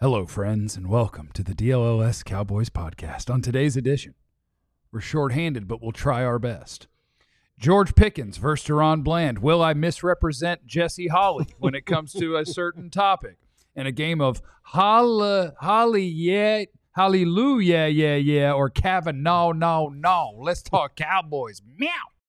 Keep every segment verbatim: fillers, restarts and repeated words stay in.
Hello, friends, and welcome to the D L L S Cowboys podcast. On today's edition, we're shorthanded, but we'll try our best. George Pickens versus Deron Bland. Will I misrepresent Jesse Holley when it comes to a certain topic? In a game of holla, holly, yeah, hallelujah, yeah, yeah, or Kavanaugh, no, no. Let's talk Cowboys. Meow.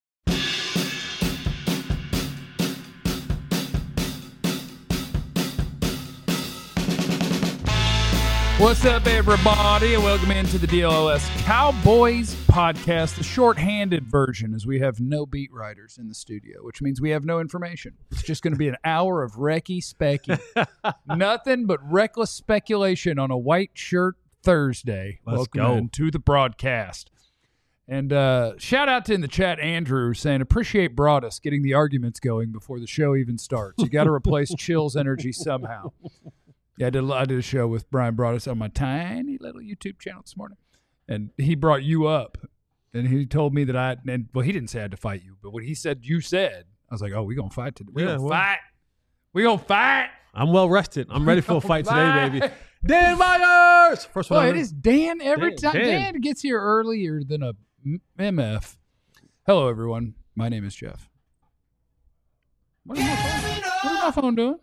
What's up, everybody, and welcome into the D L L S Cowboys podcast, the shorthanded version, as we have no beat writers in the studio, which means we have no information. It's just going to be an hour of recce specky. Nothing but reckless speculation on a white shirt Thursday. Let's welcome go. into the broadcast. And uh, shout out to in the chat, Andrew, saying, appreciate Broadus getting the arguments going before the show even starts. You got to replace Chill's energy somehow. Yeah, I did, I did a show with Brian Broadus on my tiny little YouTube channel this morning. And he brought you up. And he told me that I, and well, he didn't say I had to fight you, but what he said, you said, I was like, oh, we're going to fight today. We're Yeah, going to well- fight. We're going to fight. I'm well rested. I'm ready for a fight today, Fight. baby. Dan Myers! First one. Well, I it know. is Dan every Dan, time. Dan. Dan. gets here earlier than a M- M F. Hello, everyone. My name is Jeff. What is my phone, what is my phone doing?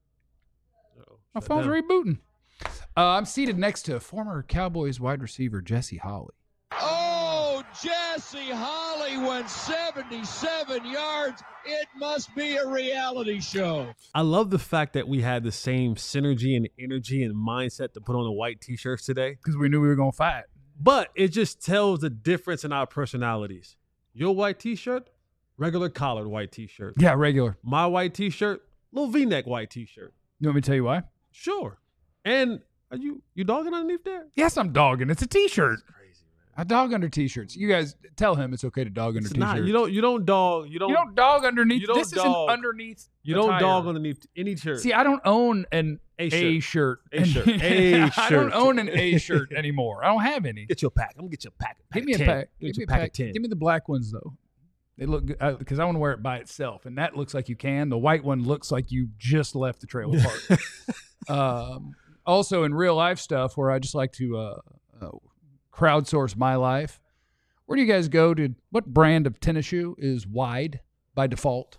My Shut phone's down. rebooting. Uh, I'm seated next to former Cowboys wide receiver Jesse Holley. Oh, Jesse Holley went seventy-seven yards. It must be a reality show. I love the fact that we had the same synergy and energy and mindset to put on the white T-shirts today. Because we knew we were going to fight. But it just tells the difference in our personalities. Your white T-shirt, regular collared white T-shirt. Yeah, regular. My white T-shirt, little V-neck white T-shirt. You want me to tell you why? Sure. And are you you dogging underneath there? Yes, I'm dogging. It's a T-shirt. Crazy, man. I dog under T-shirts. You guys tell him it's okay to dog under It's T-shirts. not. You don't. You don't dog. You don't. You don't dog underneath. you don't this dog. isn't underneath. You don't attire. dog underneath any shirt. See, I don't own an A A shirt. shirt. A shirt. A I don't shirt. own an A shirt anymore. I don't have any. Get you a pack. I'm gonna get you a pack. Give me a of ten. pack. Get Give you me a pack, of pack. ten. Give me the black ones though. They look good because I want to wear it by itself, and that looks like you can. The white one looks like you just left the trailer park. um, also, in real life stuff, where I just like to uh, uh, crowdsource my life. Where do you guys go to? What brand of tennis shoe is wide by default?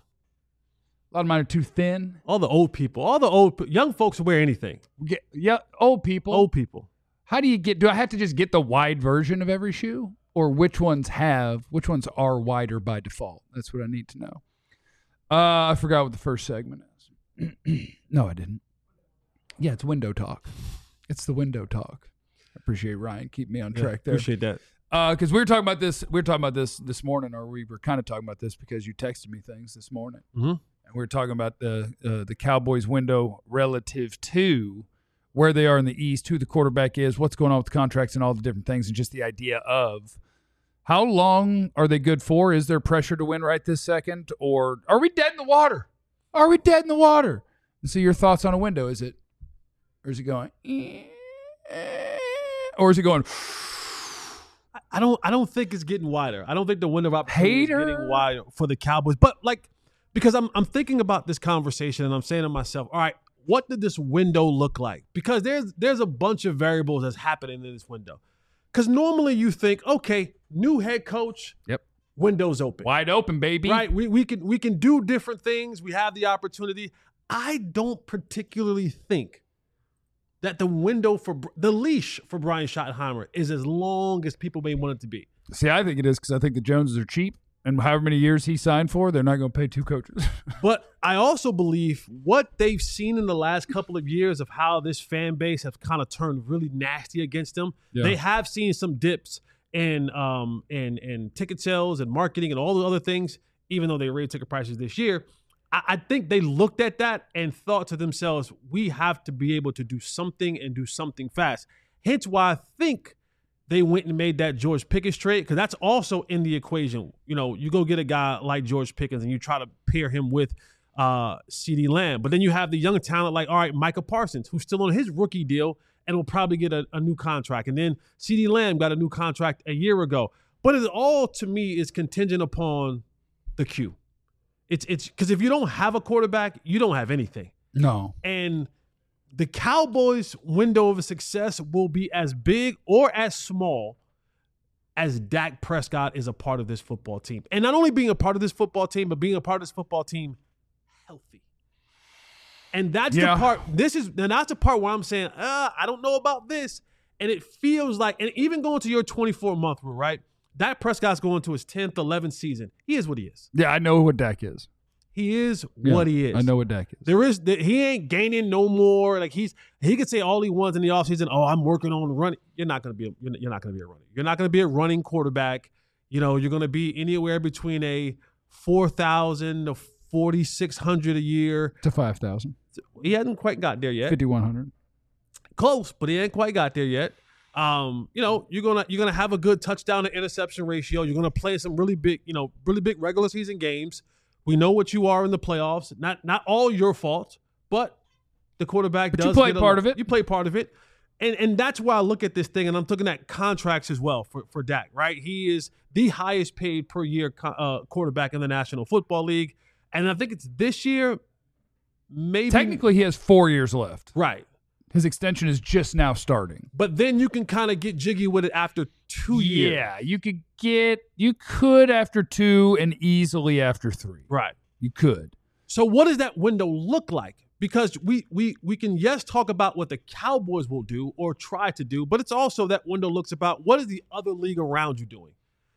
A lot of mine are too thin. All the old people, all the old pe- young folks wear anything. We get, yeah, old people. Old people. How do you get? Do I have to just get the wide version of every shoe, or which ones have? Which ones are wider by default? That's what I need to know. Uh, I forgot what the first segment is. No, I didn't. Yeah, it's window talk. It's the window talk. I appreciate Ryan. Keep me on Yeah, track there. Appreciate that. Because we were talking about this. We were talking about this this morning, or we were kind of talking about this because you texted me things this morning, Mm-hmm. and we were talking about the uh, the Cowboys window relative to where they are in the East, who the quarterback is, what's going on with the contracts, and all the different things, and just the idea of how long are they good for? Is there pressure to win right this second, or are we dead in the water? Are we dead in the water? And so, your thoughts on a window? Is it, or is it going, or is it going? I- I don't. I don't think it's getting wider. I don't think the window of opportunity Hater. is getting wider for the Cowboys. But like, because I'm I'm thinking about this conversation and I'm saying to myself, all right, what did this window look like? Because there's there's a bunch of variables that's happening in this window. Because normally you think, okay, new head coach, Yep, windows open. wide open, baby. Right. We we can we can do different things. We have the opportunity. I don't particularly think that the window for Br- the leash for Brian Schottenheimer is as long as people may want it to be. See, I think it is because I think the Joneses are cheap, and however many years he signed for, they're not going to pay two coaches. But I also believe what they've seen in the last couple of years of how this fan base have kind of turned really nasty against them. Yeah. They have seen some dips in um in in ticket sales and marketing and all the other things, even though they raised ticket prices this year. I, I think they looked at that and thought to themselves, we have to be able to do something and do something fast. Hence why I think they went and made that George Pickens trade, because that's also in the equation. You know, you go get a guy like George Pickens and you try to pair him with uh, CeeDee Lamb. But then you have the young talent like, all right, Micah Parsons, who's still on his rookie deal and will probably get a, a new contract. And then CeeDee Lamb got a new contract a year ago. But it all, to me, is contingent upon the Q. It's it's because if you don't have a quarterback, you don't have anything. No. And the Cowboys' window of success will be as big or as small as Dak Prescott is a part of this football team. And not only being a part of this football team, but being a part of this football team healthy. And that's yeah. the part, this is, and that's the part where I'm saying, uh, I don't know about this. And it feels like, and even going to your twenty-four month rule, right? Dak Prescott's going to his tenth, eleventh season. He is what he is. Yeah, I know what Dak is. He is yeah, what he is. I know what Dak is. There is, he ain't gaining no more. Like he's, he could say all he wants in the offseason, oh, I'm working on running. You're not going to be, a, you're not going to be a running. You're not going to be a running quarterback. You know, you're going to be anywhere between a four thousand to forty-six hundred a year. To five thousand. He hasn't quite got there yet. fifty-one hundred. Close, but he ain't quite got there yet. Um, you know, you're gonna you're gonna have a good touchdown to interception ratio. You're gonna play some really big, you know, really big regular season games. We know what you are in the playoffs. Not not all your fault, but the quarterback but does. You play get part a, of it. You play part of it, and and that's why I look at this thing, and I'm looking at contracts as well for for Dak. Right, he is the highest paid per year uh, quarterback in the National Football League, and I think it's this year. Maybe technically he has four years left. Right. His extension is just now starting. But then you can kind of get jiggy with it after two years. Yeah, you could get, you could after two and easily after three. Right. You could. So what does that window look like? Because we we we can, yes, talk about what the Cowboys will do or try to do, but it's also that window looks about what is the other league around you doing?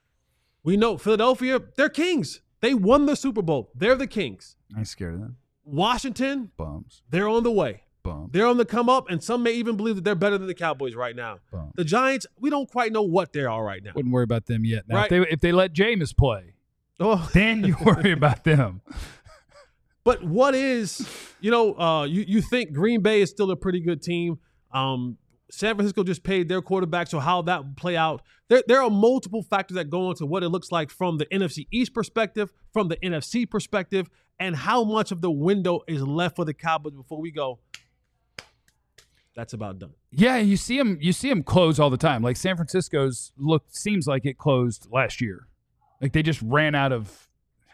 We know Philadelphia, they're kings. They won the Super Bowl. They're the kings. I'm scared of them. Washington, Bums. they're on the way. Bums. They're on the come up, and some may even believe that they're better than the Cowboys right now. Bums. The Giants, we don't quite know what they are right now. Wouldn't worry about them yet. Now, Right. if, they, if they let Jameis play, Oh. then you worry about them. But what is, you know, uh, you, you think Green Bay is still a pretty good team. Um, San Francisco just paid their quarterback, so how that will play out. There, there are multiple factors that go into what it looks like from the N F C East perspective, from the N F C perspective, and how much of the window is left for the Cowboys before we go, that's about done. Yeah, you see them. You see them close all the time. Like San Francisco's look seems like it closed last year. Like they just ran out of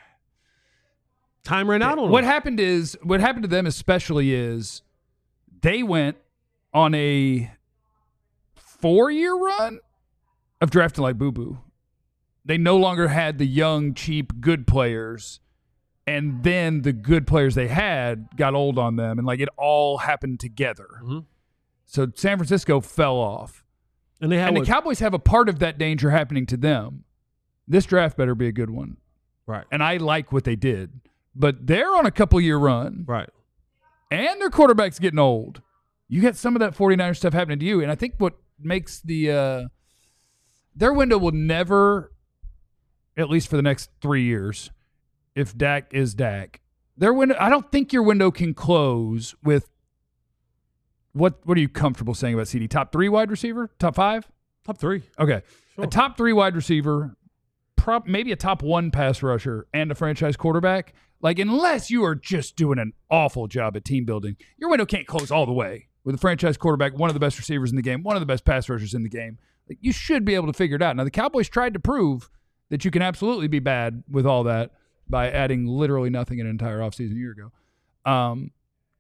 time. Ran out on what them. happened is what happened to them especially is they went on a four-year run of drafting like Boo Boo. They no longer had the young, cheap, good players. And then the good players they had got old on them, and like it all happened together. Mm-hmm. So San Francisco fell off. And they had And what, the Cowboys have a part of that danger happening to them. This draft better be a good one. right, And I like what they did. But they're on a couple-year run. right. And their quarterback's getting old. You got some of that 49ers stuff happening to you. And I think what makes the uh, – their window will never, at least for the next three years, if Dak is Dak, their window – I don't think your window can close with – what What are you comfortable saying about C D? Top three wide receiver? Top five? Top three. Okay. Sure. A top three wide receiver, prop, maybe a top one pass rusher, and a franchise quarterback. Like, unless you are just doing an awful job at team building, your window can't close all the way. With a franchise quarterback, one of the best receivers in the game, one of the best pass rushers in the game, like, you should be able to figure it out. Now, the Cowboys tried to prove that you can absolutely be bad with all that by adding literally nothing an entire offseason a year ago. Um,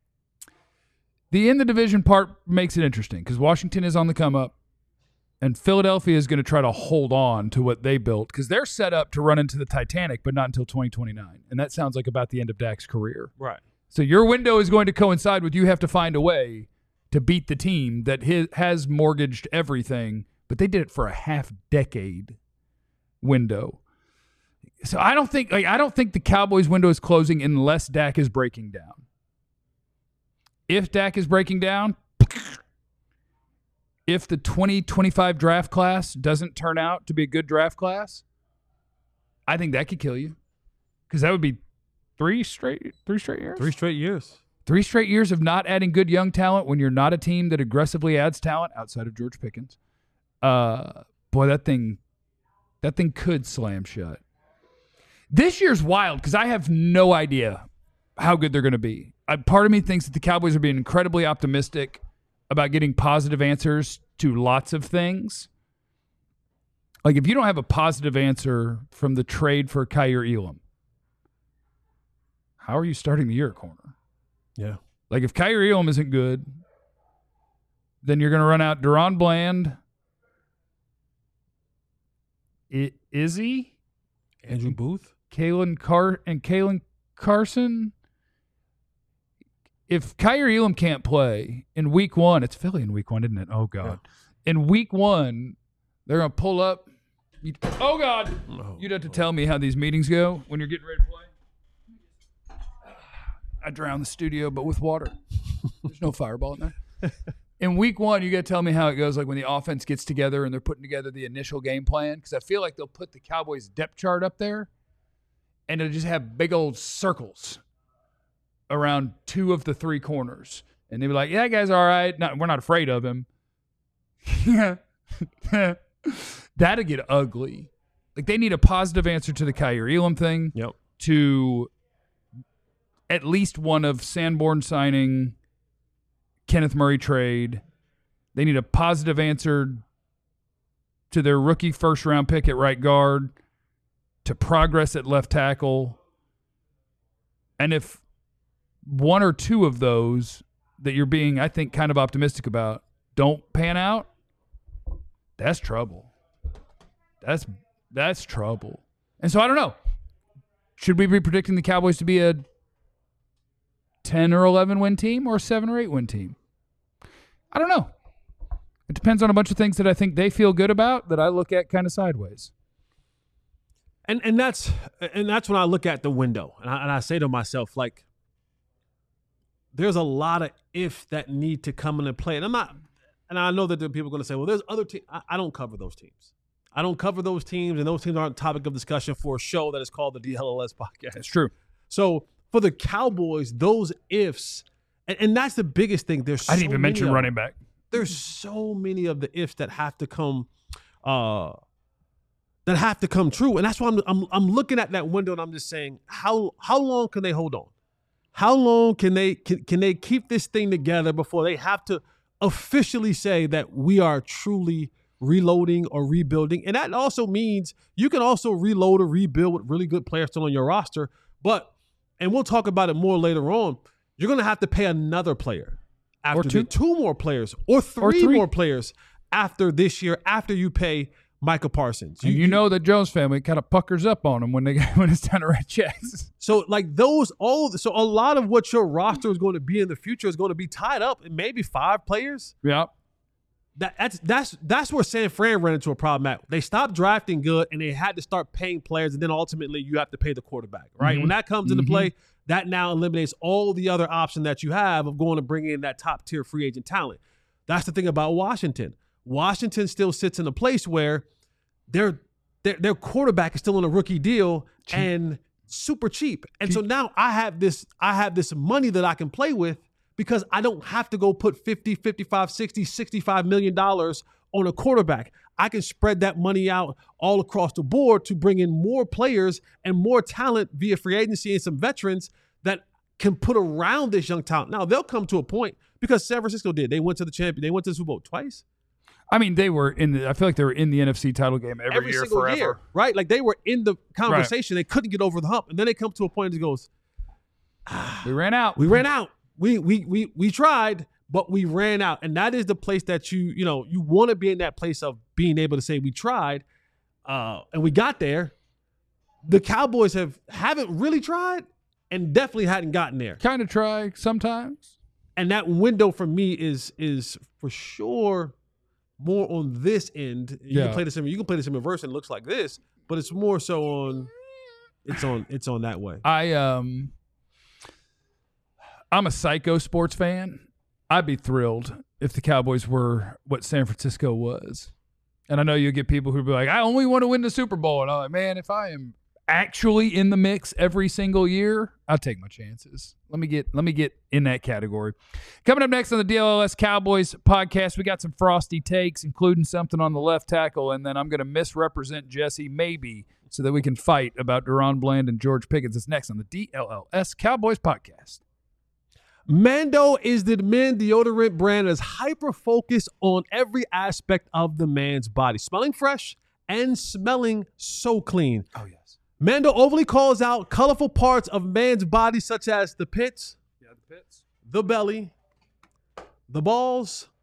the in the division part makes it interesting because Washington is on the come up. And Philadelphia is going to try to hold on to what they built because they're set up to run into the Titanic, but not until twenty twenty-nine. And that sounds like about the end of Dak's career. Right. So your window is going to coincide with you have to find a way to beat the team that his, has mortgaged everything, but they did it for a half decade window. So I don't think like I don't think the Cowboys window is closing unless Dak is breaking down. If Dak is breaking down, if the twenty twenty-five draft class doesn't turn out to be a good draft class, I think that could kill you. Because that would be three straight three straight years? Three straight years. Three straight years of not adding good young talent when you're not a team that aggressively adds talent outside of George Pickens. Uh, boy, that thing that thing could slam shut. This year's wild because I have no idea how good they're going to be. I, part of me thinks that the Cowboys are being incredibly optimistic about getting positive answers to lots of things. Like, if you don't have a positive answer from the trade for Kaiir Elam, how are you starting the year at corner? Yeah. Like, if Kaiir Elam isn't good, then you're going to run out Deron Bland, I- Izzy, Andrew Booth, Kalen Car and Kalen Carson. If Kyrie Elam can't play in week one, it's Philly in week one, isn't it? Oh God. Yeah. In week one, they're going to pull up. You, oh God. Oh, You'd have to oh. tell me how these meetings go when you're getting ready to play. I drown the studio, but with water. There's no fireball in there. In week one, you got to tell me how it goes, like when the offense gets together and they're putting together the initial game plan, because I feel like they'll put the Cowboys depth chart up there, and it'll just have big old circles around two of the three corners. And they'll be like, yeah, that guy's all right. Not, we're not afraid of him. That'll get ugly. Like, they need a positive answer to the Kyrie Elam thing, yep. to at least one of Sanborn signing, Kenneth Murray trade. They need a positive answer to their rookie first-round pick at right guard, to progress at left tackle. And if one or two of those that you're being, I think, kind of optimistic about don't pan out, that's trouble. That's that's trouble. And so I don't know. Should we be predicting the Cowboys to be a ten or eleven win team or a seven or eight win team? I don't know. It depends on a bunch of things that I think they feel good about that I look at kind of sideways. And and that's and that's when I look at the window and I, and I say to myself, like, there's a lot of if that need to come into play. And I'm not, and I know that there are people going to say, well, there's other teams. I, I don't cover those teams. I don't cover those teams, and those teams aren't a topic of discussion for a show that is called the D L L S podcast. That's true. So for the Cowboys, those ifs, and, and that's the biggest thing. There's so I didn't even many mention of, running back. There's so many of the ifs that have to come, uh, that have to come true, and that's why I'm I'm I'm looking at that window and I'm just saying, how how long can they hold on? How long can they can, can they keep this thing together before they have to officially say that we are truly reloading or rebuilding? And that also means you can also reload or rebuild with really good players still on your roster. But, and we'll talk about it more later on, you're going to have to pay another player after or two. The, two more players or three, or three more players after this year, after you pay Micah Parsons. You, you know the Jones family kind of puckers up on them when they when it's time to write checks. So like those, all so a lot of what your roster is going to be in the future is going to be tied up in maybe five players. Yeah. That, that's that's that's where San Fran ran into a problem at. They stopped drafting good, and they had to start paying players, and then ultimately you have to pay the quarterback, right? Mm-hmm. When that comes into mm-hmm. play, that now eliminates all the other option that you have of going to bring in that top-tier free agent talent. That's the thing about Washington. Washington still sits in a place where their their, their quarterback is still on a rookie deal cheap. and super cheap. And cheap. So now I have this I have this money that I can play with, because I don't have to go put fifty, fifty-five, sixty, sixty-five million dollars on a quarterback. I can spread that money out all across the board to bring in more players and more talent via free agency and some veterans that can put around this young talent. Now, they'll come to a point, because San Francisco did. They went to the champion. They went to the Super Bowl twice. I mean, they were in the, I feel like they were in the N F C title game every, every year single forever. Year, right? Like they were in the conversation. Right. They couldn't get over the hump. And then they come to a point that goes, ah, we ran out. We ran out. We we we we tried, but we ran out. And that is the place that you, you know, you want to be in that place of being able to say we tried, uh, and we got there. The Cowboys have haven't really tried and definitely hadn't gotten there. Kind of try sometimes. And that window for me is is for sure more on this end. You yeah. can play this in you can play this in reverse and it looks like this, but it's more so on it's on it's on that way. I um I'm a psycho sports fan. I'd be thrilled if the Cowboys were what San Francisco was. And I know you'll get people who'll be like, I only want to win the Super Bowl. And I'm like, man, if I am actually in the mix every single year, I'll take my chances. Let me get let me get in that category. Coming up next on the D L L S Cowboys podcast, we got some frosty takes, including something on the left tackle, and then I'm going to misrepresent Jesse maybe so that we can fight about Deron Bland and George Pickens. It's next on the D L L S Cowboys podcast. Mando is the men deodorant brand that is hyper-focused on every aspect of the man's body. Smelling fresh and smelling so clean. Oh, yes. Mando overly calls out colorful parts of man's body such as the pits, yeah, the pits, the belly, the balls,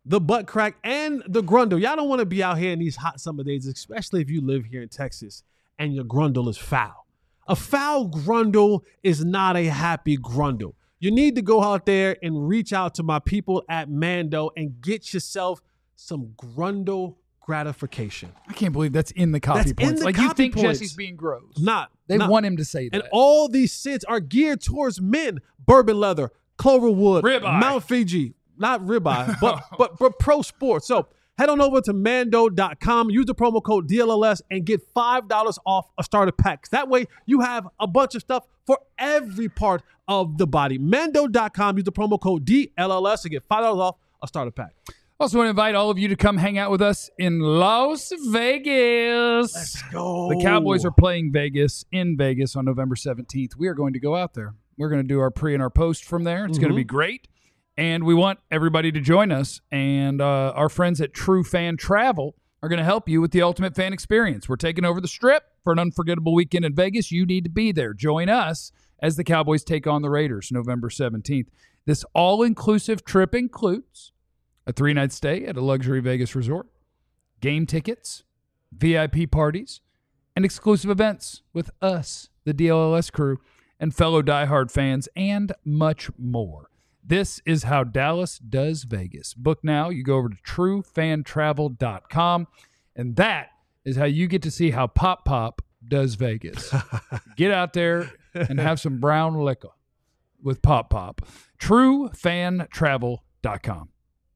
the butt crack, and the grundle. Y'all don't want to be out here in these hot summer days, especially if you live here in Texas and your grundle is foul. A foul grundle is not a happy grundle. You need to go out there and reach out to my people at Mando and get yourself some grundle gratification. I can't believe that's in the copy That's in points. the Like you copy think points. Jesse's being gross. Not. They not. want him to say that. And all these scents are geared towards men. Bourbon leather, Cloverwood, Ribeye. Mount Fiji. Not ribeye, but, but but pro sports. So head on over to Mando dot com, use the promo code D L L S, and get five dollars off a starter pack. That way you have a bunch of stuff for every part of the body. Mando dot com, use the promo code D L L S and get five dollars off a starter pack. Also want to invite all of you to come hang out with us in Las Vegas. Let's go. The Cowboys are playing Vegas in Vegas on November seventeenth. We are going to go out there. We're going to do our pre and our post from there. It's Mm-hmm. going to be great. And we want everybody to join us. And uh, our friends at True Fan Travel are going to help you with the ultimate fan experience. We're taking over the Strip for an unforgettable weekend in Vegas. You need to be there. Join us as the Cowboys take on the Raiders November seventeenth. This all-inclusive trip includes a three-night stay at a luxury Vegas resort, game tickets, V I P parties, and exclusive events with us, the D L L S crew, and fellow diehard fans, and much more. This is how Dallas does Vegas. Book now. You go over to true fan travel dot com, and that is how you get to see how Pop Pop does Vegas. Get out there and have some brown liquor with Pop Pop. true fan travel dot com.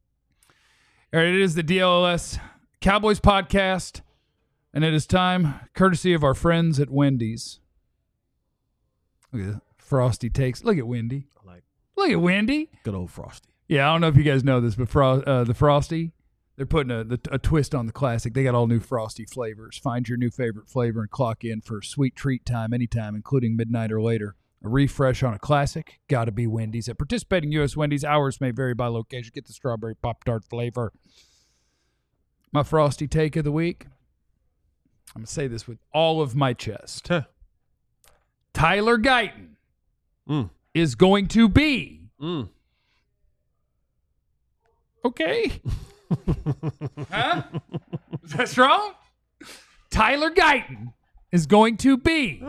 All right, it is the D L L S Cowboys podcast, and it is time, courtesy of our friends at Wendy's. Look at that. Frosty takes. Look at Wendy. I like Look at Wendy. good old Frosty. Yeah, I don't know if you guys know this, but Fro- uh, the Frosty, they're putting a, the, a twist on the classic. They got all new Frosty flavors. Find your new favorite flavor and clock in for sweet treat time anytime, including midnight or later. A refresh on a classic, gotta be Wendy's. At participating U S Wendy's, hours may vary by location. Get the strawberry Pop-Tart flavor. My Frosty take of the week, I'm going to say this with all of my chest. Huh. Tyler Guyton Mm. is going to be Mm. okay. Huh? Is that strong? Tyler Guyton is going to be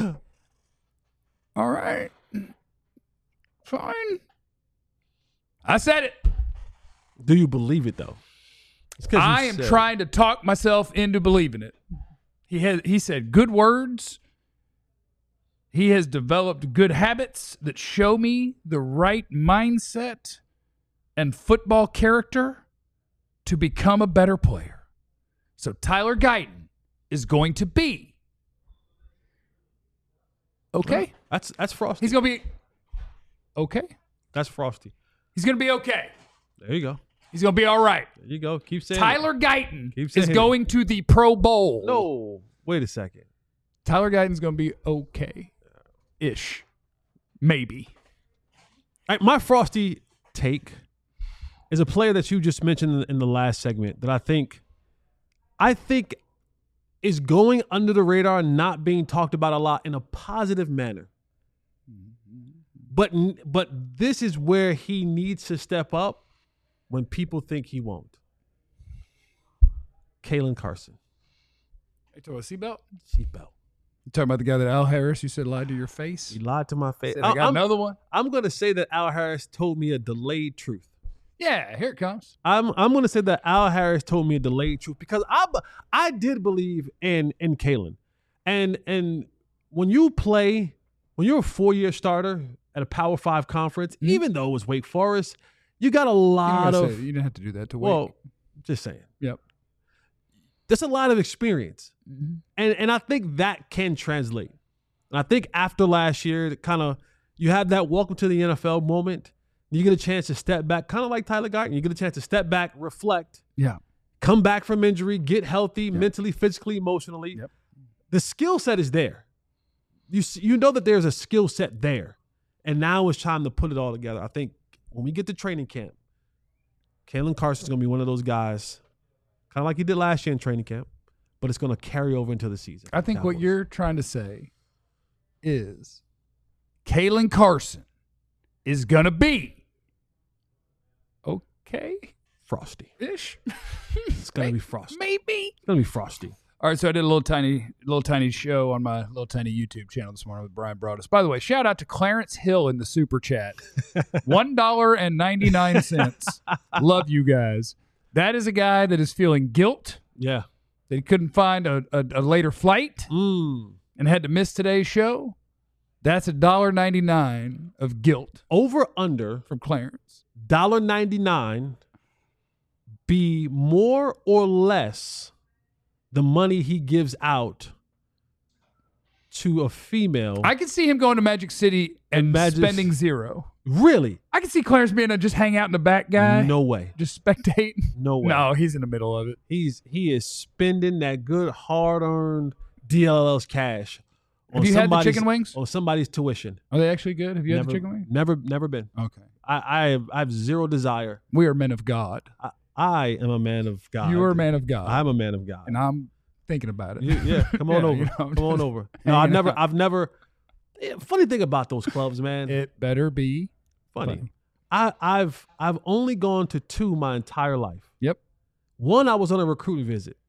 all right. Fine. I said it. Do you believe it, though? It's 'cause you I am said it. trying to talk myself into believing it. He has he said good words. He has developed good habits that show me the right mindset and football character to become a better player. So Tyler Guyton is going to be okay. That's that's Frosty. He's going to be okay. That's Frosty. He's going to be okay. There you go. He's going to be all right. There you go. Keep saying Tyler Guyton Keep is saying it. going to the Pro Bowl. it. No. Wait a second. Tyler Guyton's going to be okay-ish. Maybe. All right, my Frosty take is a player that you just mentioned in the last segment that I think I think is going under the radar, not being talked about a lot in a positive manner. But but this is where he needs to step up when people think he won't. Kalen Carson. Hey, to a seatbelt? Seatbelt. You talking about the guy that Al Harris you said lied to your face? He lied to my face. Said, I got I'm, another one. I'm going to say that Al Harris told me a delayed truth. Yeah, here it comes. I'm I'm going to say that Al Harris told me a delayed truth because I I did believe in in Kalen, and and when you play when you're a four year starter at a Power Five conference, Mm-hmm. even though it was Wake Forest, you got a You lot didn't, of say, you didn't have to do that to wait. well, just saying. Yep. There's a lot of experience, Mm-hmm. and and I think that can translate. And I think after last year, kind of you have that welcome to the N F L moment. You get a chance to step back, kind of like Tyler Guyton. You get a chance to step back, reflect, Yeah. come back from injury, get healthy, mentally, physically, emotionally. Yep. The skill set is there. You s- you know that there's a skill set there, and now it's time to put it all together. I think when we get to training camp, Kalen Carson's going to be one of those guys, kind of like he did last year in training camp, but it's going to carry over into the season. I think what Cowboys. you're trying to say is Kalen Carson is going to be okay. frosty. Ish. It's gonna be frosty. Maybe. It's gonna be frosty. All right, so I did a little tiny, little tiny show on my little tiny YouTube channel this morning with Brian Broaddus. By the way, shout out to Clarence Hill in the super chat, one dollar and ninety nine cents. Love you guys. That is a guy that is feeling guilt Yeah. that he couldn't find a, a, a later flight Mm. and had to miss today's show. That's a dollar ninety nine of guilt Over under from Clarence. one dollar ninety-nine be more or less the money he gives out to a female. I could see him going to Magic City and Magic- spending zero. really? I could see Clarence being a just hang out in the back guy. No way. Just spectate. No way. No, he's in the middle of it. He's he is spending that good hard earned D L L's cash. Have you had the somebody's- chicken wings? On somebody's tuition. Are they actually good? Have you never, had the chicken wings? Never, never been. Okay. I, I have I have zero desire. We are men of God. I, I am a man of God. You are a man of God. I'm a man of God. and I'm thinking about it. You- yeah, come on Yeah, over. you know, I'm come on just over. No, hanging I've never, out. I've never. yeah, funny thing about those clubs, man. It better be funny. funny. I, I've I've only gone to two my entire life. Yep. One, I was on a recruiting visit.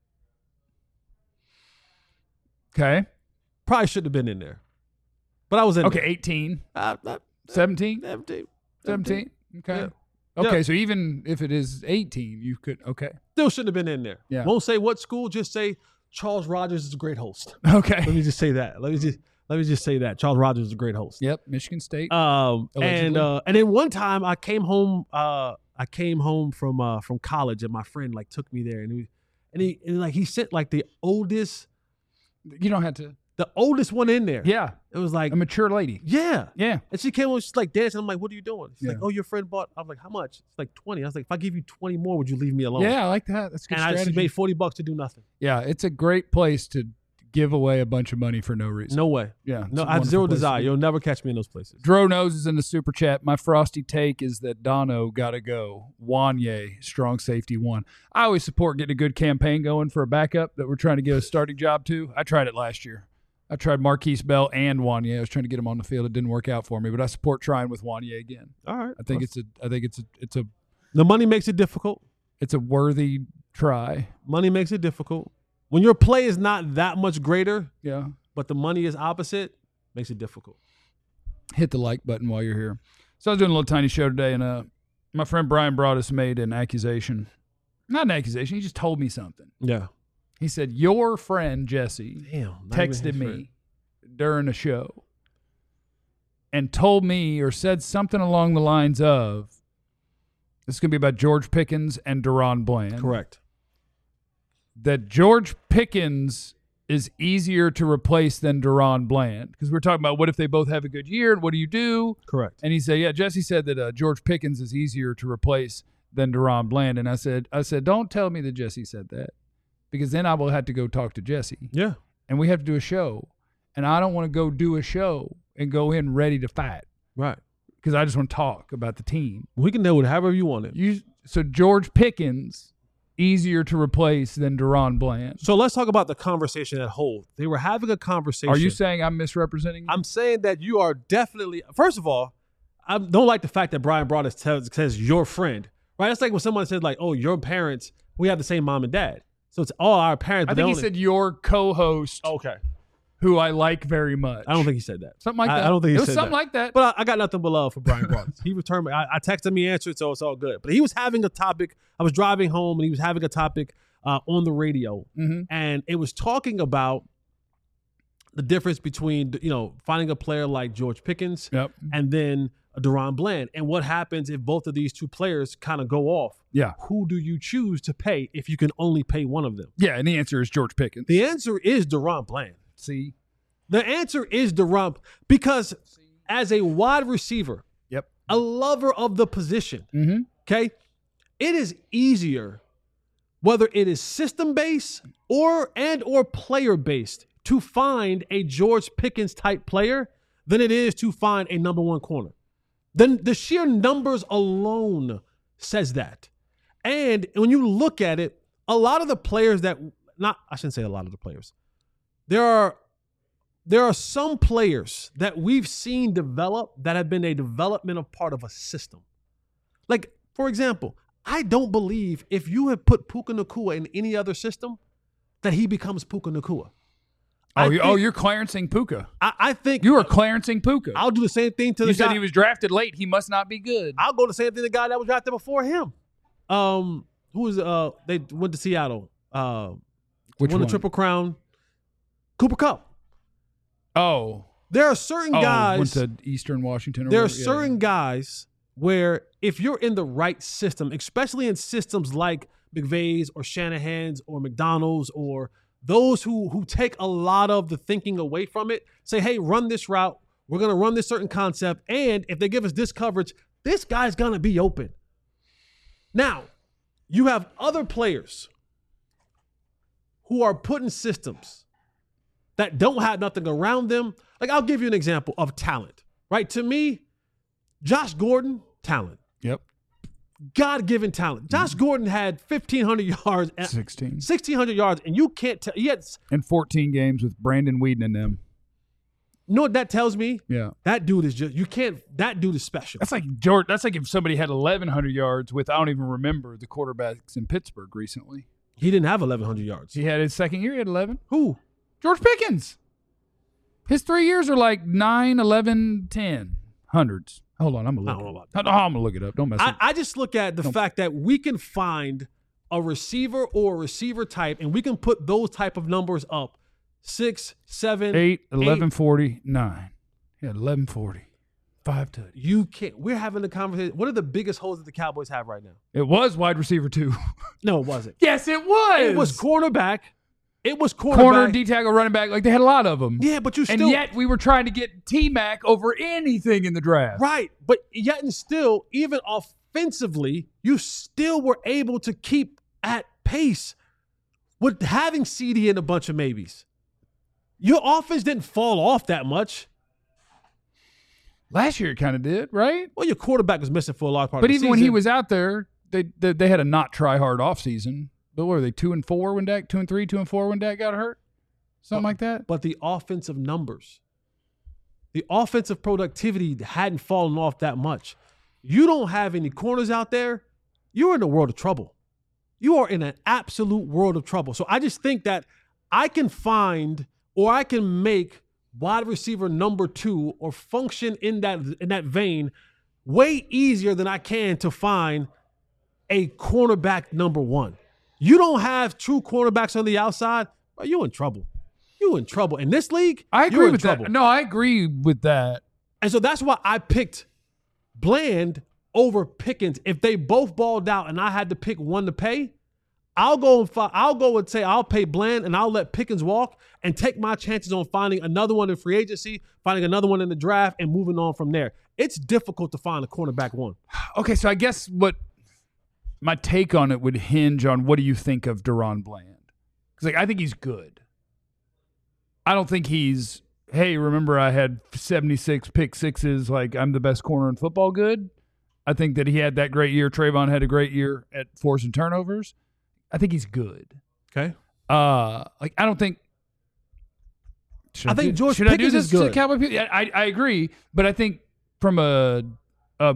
Okay. Probably shouldn't have been in there, but I was in. Okay, there. eighteen, Uh, uh, seventeen, seventeen, seventeen. Okay. Yeah. Okay, Yeah. so even if it is eighteen, you could, okay. Still shouldn't have been in there. Yeah. Won't say what school. Just say Charles Rogers is a great host. Okay. Let me just say that. Let me just let me just say that Charles Rogers is a great host. Yep, Michigan State. Um, and Allegedly. uh, and then one time I came home. Uh, I came home from uh from college, and my friend like took me there, and he and he and like he sent like the oldest you don't have to. the oldest one in there. Yeah, It was like a mature lady. yeah. Yeah. And she came on, she's like dancing. I'm like, what are you doing? She's like, Yeah. oh, your friend bought. I'm like, how much? It's like twenty. I was like, if I give you twenty more, would you leave me alone? Yeah, I like that. That's a good And I, she strategy. made forty bucks to do nothing. yeah, it's a great place to give away a bunch of money for no reason. No way. Yeah. it's No, a I have wonderful zero place to desire. be. You'll never catch me in those places. Dro Knows is in the super chat. My frosty take is that Dono got to go. Wanye, strong safety one. I always support getting a good campaign going for a backup that we're trying to get a starting job to. I tried it last year. I tried Marquise Bell and Wanye. I was trying to get him on the field. It didn't work out for me, but I support trying with Wanye again. All right. I think it's a. I think it's a. It's a. the money makes it difficult. It's a worthy try. Money makes it difficult. When your play is not that much greater, Yeah. but the money is opposite, makes it difficult. Hit the like button while you're here. So I was doing a little tiny show today, and uh, my friend Brian Broaddus made an accusation. Not an accusation. He just told me something. Yeah. He said, your friend Jesse Damn. not even texted his me friend. during a show and told me or said something along the lines of, this is going to be about George Pickens and Deron Bland. Correct. That George Pickens is easier to replace than Deron Bland. Because we're talking about what if they both have a good year and what do you do? Correct. And he said, yeah, Jesse said that uh, George Pickens is easier to replace than Deron Bland. And I said, I said, don't tell me that Jesse said that, because then I will have to go talk to Jesse. Yeah. And we have to do a show. And I don't want to go do a show and go in ready to fight, Right. because I just want to talk about the team. We can do it however you want it. You, so George Pickens, easier to replace than Deron Bland. So let's talk about the conversation at whole. They were having a conversation. Are you saying I'm misrepresenting you? I'm saying that you are definitely, first of all, I don't like the fact that Brian Broaddus tells, says your friend, right? It's like when someone says like, oh, your parents, we have the same mom and dad. So it's all our parents. I but they think he only- said your co-host, okay. who I like very much. I don't think he said that. Something like I- that. I don't think he it was said something that. like that. But I, I got nothing but love for Brian Broaddus. He returned me. I, I texted him, he answered, so it's all good. But he was having a topic. I was driving home and he was having a topic uh, on the radio. Mhm. And it was talking about the difference between, you know, finding a player like George Pickens Yep. and then a Deron Bland. And what happens if both of these two players kind of go off? Yeah. Who do you choose to pay if you can only pay one of them? Yeah, and the answer is George Pickens. The answer is Deron Bland. See? The answer is Deron, because as a wide receiver, Yep. a lover of the position, Mm-hmm. okay, it is easier, whether it is system based or and or player based, to find a George Pickens type player than it is to find a number one corner. Then the sheer numbers alone says that. And when you look at it, a lot of the players that not I shouldn't say a lot of the players. There are there are some players that we've seen develop that have been a developmental part of a system. Like, for example, I don't believe if you had put Puka Nacua in any other system that he becomes Puka Nacua. Oh, you, oh, you're Clarencing Puka. I, I think you are Clarencing Puka. I'll do the same thing to you the said guy. he was drafted late. He must not be good. I'll go the same thing to the guy that was drafted before him. Um, who was uh? They went to Seattle. Uh, Which won one? the Triple Crown. Cooper Kupp. Oh, there are certain oh, guys. went to Eastern Washington. Or there are whatever. certain yeah. guys where if you're in the right system, especially in systems like McVay's or Shanahan's or McDonald's or those who who take a lot of the thinking away from it, say, hey, run this route. We're going to run this certain concept. And if they give us this coverage, this guy's going to be open. Now, you have other players who are put in systems that don't have nothing around them. Like, I'll give you an example of talent, right? To me, Josh Gordon, talent. Yep. God-given talent. Josh mm-hmm. Gordon had fifteen hundred yards. sixteen. sixteen hundred yards, and you can't tell. He had, and fourteen games with Brandon Weeden in them. You know what that tells me? Yeah. That dude is just, you can't, that dude is special. That's like George. That's like if somebody had eleven hundred yards with, I don't even remember the quarterbacks in Pittsburgh recently. He didn't have eleven hundred yards. He had his second year, he had eleven. Who? George Pickens. His three years are like nine, eleven, ten. Hundreds. Hold on, I'm going to look it up. I'm going to look it up. Don't mess I, with I just look at the Don't. fact that we can find a receiver or a receiver type, and we can put those type of numbers up. Six, seven, eight, eleven eight. forty, nine. He had eleven forty. Five touchdowns. You can't. We're having a conversation. What are the biggest holes that the Cowboys have right now? It was wide receiver two. No, it wasn't. Yes, it was. It was cornerback. It was cornerback. Corner, D-tackle, running back. Like, they had a lot of them. Yeah, but you still. And yet we were trying to get T-Mac over anything in the draft. Right. But yet and still, even offensively, you still were able to keep at pace with having C D and a bunch of maybes. Your offense didn't fall off that much. Last year it kind of did, right? Well, your quarterback was missing for a large part but of the even season. when he was out there, they, they they had a not try hard offseason. But what were they, two and four when Dak, two and three, two and four when Dak got hurt? Something but, like that? But the offensive numbers, the offensive productivity hadn't fallen off that much. You don't have any corners out there, you're in a world of trouble. You are in an absolute world of trouble. So I just think that I can find or I can make wide receiver number two or function in that in that vein way easier than I can to find a cornerback number one. You don't have true cornerbacks on the outside, bro, you're in trouble. You're in trouble. In this league, I agree you're in with trouble. that. No, I agree with that. And so that's why I picked Bland over Pickens. If they both balled out and I had to pick one to pay, I'll go and fi- I'll go and say I'll pay Bland and I'll let Pickens walk and take my chances on finding another one in free agency, finding another one in the draft, and moving on from there. It's difficult to find a cornerback one. Okay, so I guess what my take on it would hinge on what do you think of Deron Bland? Because like I think he's good. I don't think he's, hey, remember I had seventy-six pick sixes, like I'm the best corner in football good. I think that he had that great year. Trayvon had a great year at forcing turnovers. I think he's good. Okay. Uh, like I don't think. I think do, George should Pickens I do this is good. to Cowboy people? I, I I agree, but I think from a a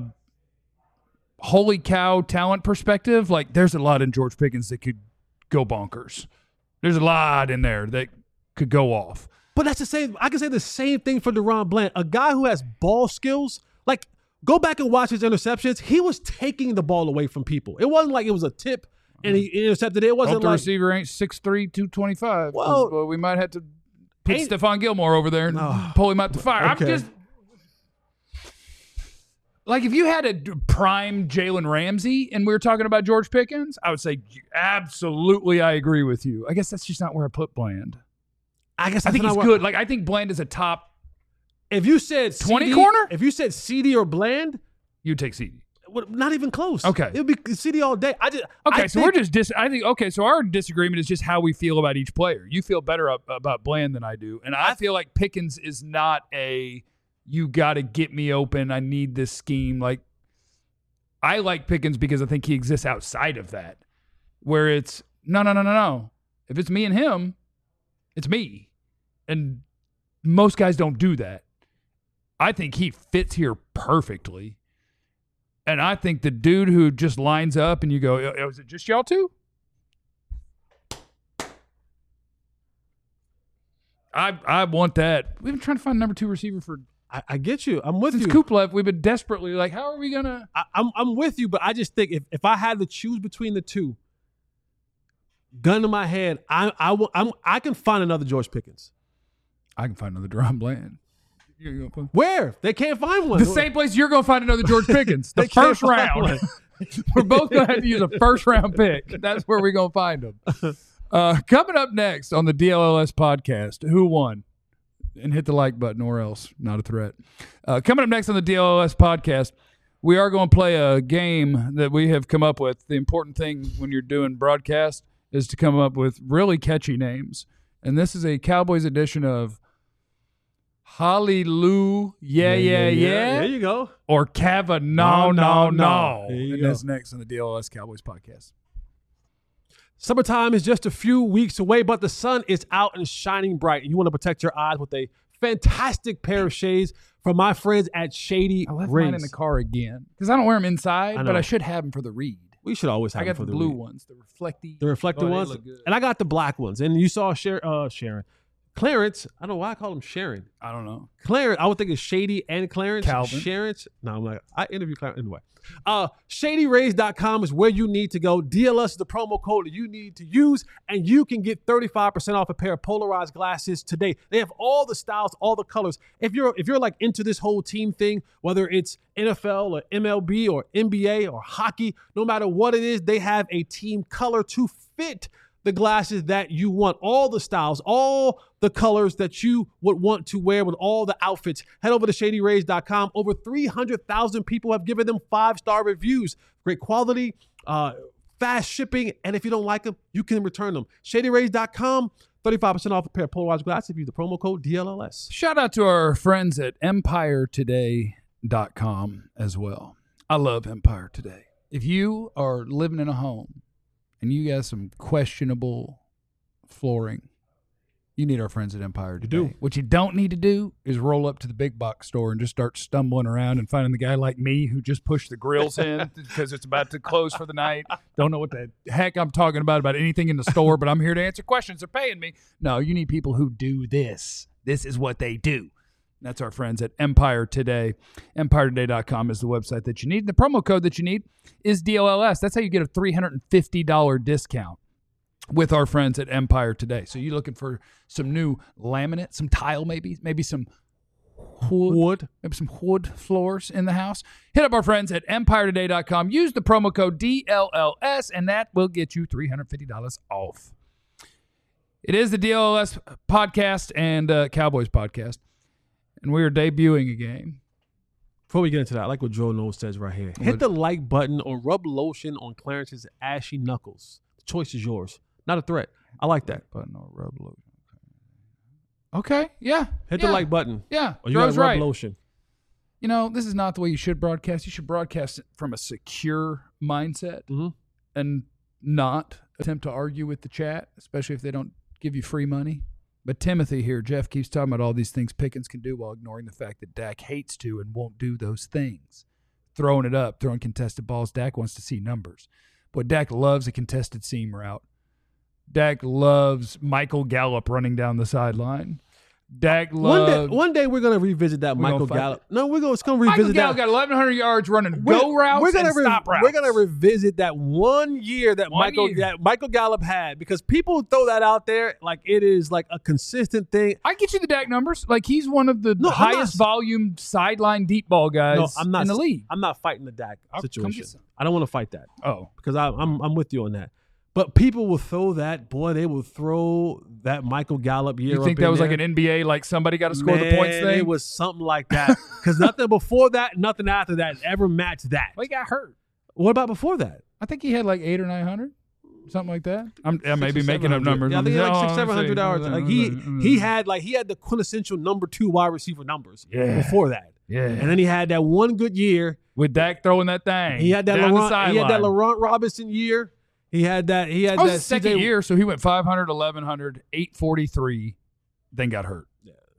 holy cow talent perspective, like there's a lot in George Pickens that could go bonkers. There's a lot in there that could go off. But that's the same. I can say the same thing for Deron Bland, a guy who has ball skills. Like, go back and watch his interceptions. He was taking the ball away from people. It wasn't like it was a tip and he intercepted it. It wasn't Hope the like receiver ain't six three, two twenty-five. Well, well, we might have to put ain't- Stephon Gilmore over there and Oh, pull him out the fire. okay. I'm just like, if you had a d- prime Jalen Ramsey and we were talking about George Pickens, I would say absolutely I agree with you. I guess that's just not where I put Bland. I guess I that's think not he's what- good. Like I think Bland is a top. If you said twenty C D, corner? if you said C D or Bland, You'd take C D. well, not even close. Okay. It would be C D all day. I just Okay, I so think, we're just dis- I think okay, so our disagreement is just how we feel about each player. You feel better up, about Bland than I do, and I, I feel like Pickens is not a you got to get me open. I need this scheme. Like I like Pickens because I think he exists outside of that, where it's no, no, no, no, no. If it's me and him, it's me, and most guys don't do that. I think he fits here perfectly. And I think the dude who just lines up and you go, oh, is it just y'all two? I I want that. We've been trying to find a number two receiver for I, I get you. I'm with since you. Kuplev. We've been desperately like, how are we gonna? I, I'm I'm with you, but I just think if, if I had to choose between the two, gun to my head, I I will, I'm I can find another George Pickens. I can find another Deron Bland. Where? They can't find one. The same place you're gonna find another George Pickens. The They can't first find round. one. We're both gonna have to use a first round pick. That's where we're gonna find them. Uh, coming up next on the D L L S podcast, who won? And hit the like button or else, not a threat. Uh, coming up next on the D L L S podcast, we are going to play a game that we have come up with. The important thing when you're doing broadcast is to come up with really catchy names. And this is a Cowboys edition of Hallelujah, yeah, yeah, yeah. There you go. Or Cava, no, no, no. There you And go. that's next on the D L L S Cowboys podcast. Summertime is just a few weeks away, but the sun is out and shining bright, and you want to protect your eyes with a fantastic pair of shades from my friends at Shady I left Rays. mine in the car again because I don't wear them inside, I but know. I should have them for the read. We should always have I got them the for blue read. ones, the reflective. The reflective Oh, they ones, look good. and I got the black ones. And you saw Sher- uh, Sharon, Clarence. I don't know why I call him Sharon. I don't know. Clarence, I would think it's Shady and Clarence. Calvin. Sharon's. No, I'm like, I interview Clarence anyway. Uh, Shady Rays dot com is where you need to go. D L S is the promo code that you need to use, and you can get thirty-five percent off a pair of polarized glasses today. They have all the styles, all the colors. If you're if you're like into this whole team thing, whether it's N F L or M L B or N B A or hockey, no matter what it is, they have a team color to fit the glasses that you want, all the styles, all the colors that you would want to wear with all the outfits. Head over to Shady Rays dot com. Over three hundred thousand people have given them five-star reviews. Great quality, uh, fast shipping, and if you don't like them, you can return them. Shady Rays dot com, thirty-five percent off a pair of polarized glasses if you use the promo code D L L S. Shout out to our friends at empire today dot com as well. I love Empire Today. If you are living in a home and you got some questionable flooring, you need our friends at Empire Today. do. What you don't need to do is roll up to the big box store and just start stumbling around and finding the guy like me who just pushed the grills in because it's about to close for the night. Don't know what the heck I'm talking about, about anything in the store, but I'm here to answer questions. They're paying me. No, you need people who do this. This is what they do. That's our friends at Empire Today. empire today dot com is the website that you need. The promo code that you need is D L L S. That's how you get a three hundred fifty dollars discount with our friends at Empire Today. So you're looking for some new laminate, some tile maybe, maybe some wood, Wood. maybe some wood floors in the house. Hit up our friends at empire today dot com. Use the promo code D L L S, and that will get you three hundred fifty dollars off. It is the D L L S podcast and uh, Cowboys podcast. And we are debuting a game. Before we get into that, I like what Joe Knowles says right here. Hit the like button or rub lotion on Clarence's ashy knuckles. The choice is yours. Not a threat. I like that. Button or rub lotion. Okay, yeah. Hit yeah, the like button. Yeah, Or you got Joe's rub right. lotion. You know, this is not the way you should broadcast. You should broadcast it from a secure mindset Mhm. and not attempt to argue with the chat, especially if they don't give you free money. But Timothy here, Jeff, keeps talking about all these things Pickens can do while ignoring the fact that Dak hates to and won't do those things. Throwing it up, throwing contested balls. Dak wants to see numbers. Boy, Dak loves a contested seam route. Dak loves Michael Gallup running down the sideline. Dak One loves... day, one day we're gonna revisit that We're Michael gonna fight Gallup. No, we're gonna, it's gonna Michael revisit Gallup that. got eleven hundred yards running We're- go routes we're gonna and re- stop routes. We're gonna revisit that one year that One Michael year. that Michael Gallup had because people throw that out there like it is like a consistent thing. I get you the Dak numbers. Like, he's one of the No, I'm highest not- volume sideline deep ball guys No, I'm not in the league. I'm not fighting the Dak I'll come situation. get some. I don't want to fight that Oh. because I, I'm I'm with you on that. But people will throw that boy. They will throw that Michael Gallup year. You think up that in was like there. an N B A, like somebody got to score Man, the points thing? It was something like that because nothing before that, nothing after that ever matched that. Well, he got hurt. What about before that? I think he had like eight or nine hundred, something like that. I'm I may Six be or making up seven hundred. numbers. Yeah, I think he had like six, Oh, seven hundred let's see. yards. Like he he had like he had the quintessential number two wide receiver numbers Yeah. before that, yeah, and then he had that one good year. with Dak throwing that thing. He had that down the Laurent, he had that sideline. Laurent Robinson year. He had that. He had That was that his second C J year, so he went five hundred, eleven hundred, eight forty-three, then got hurt.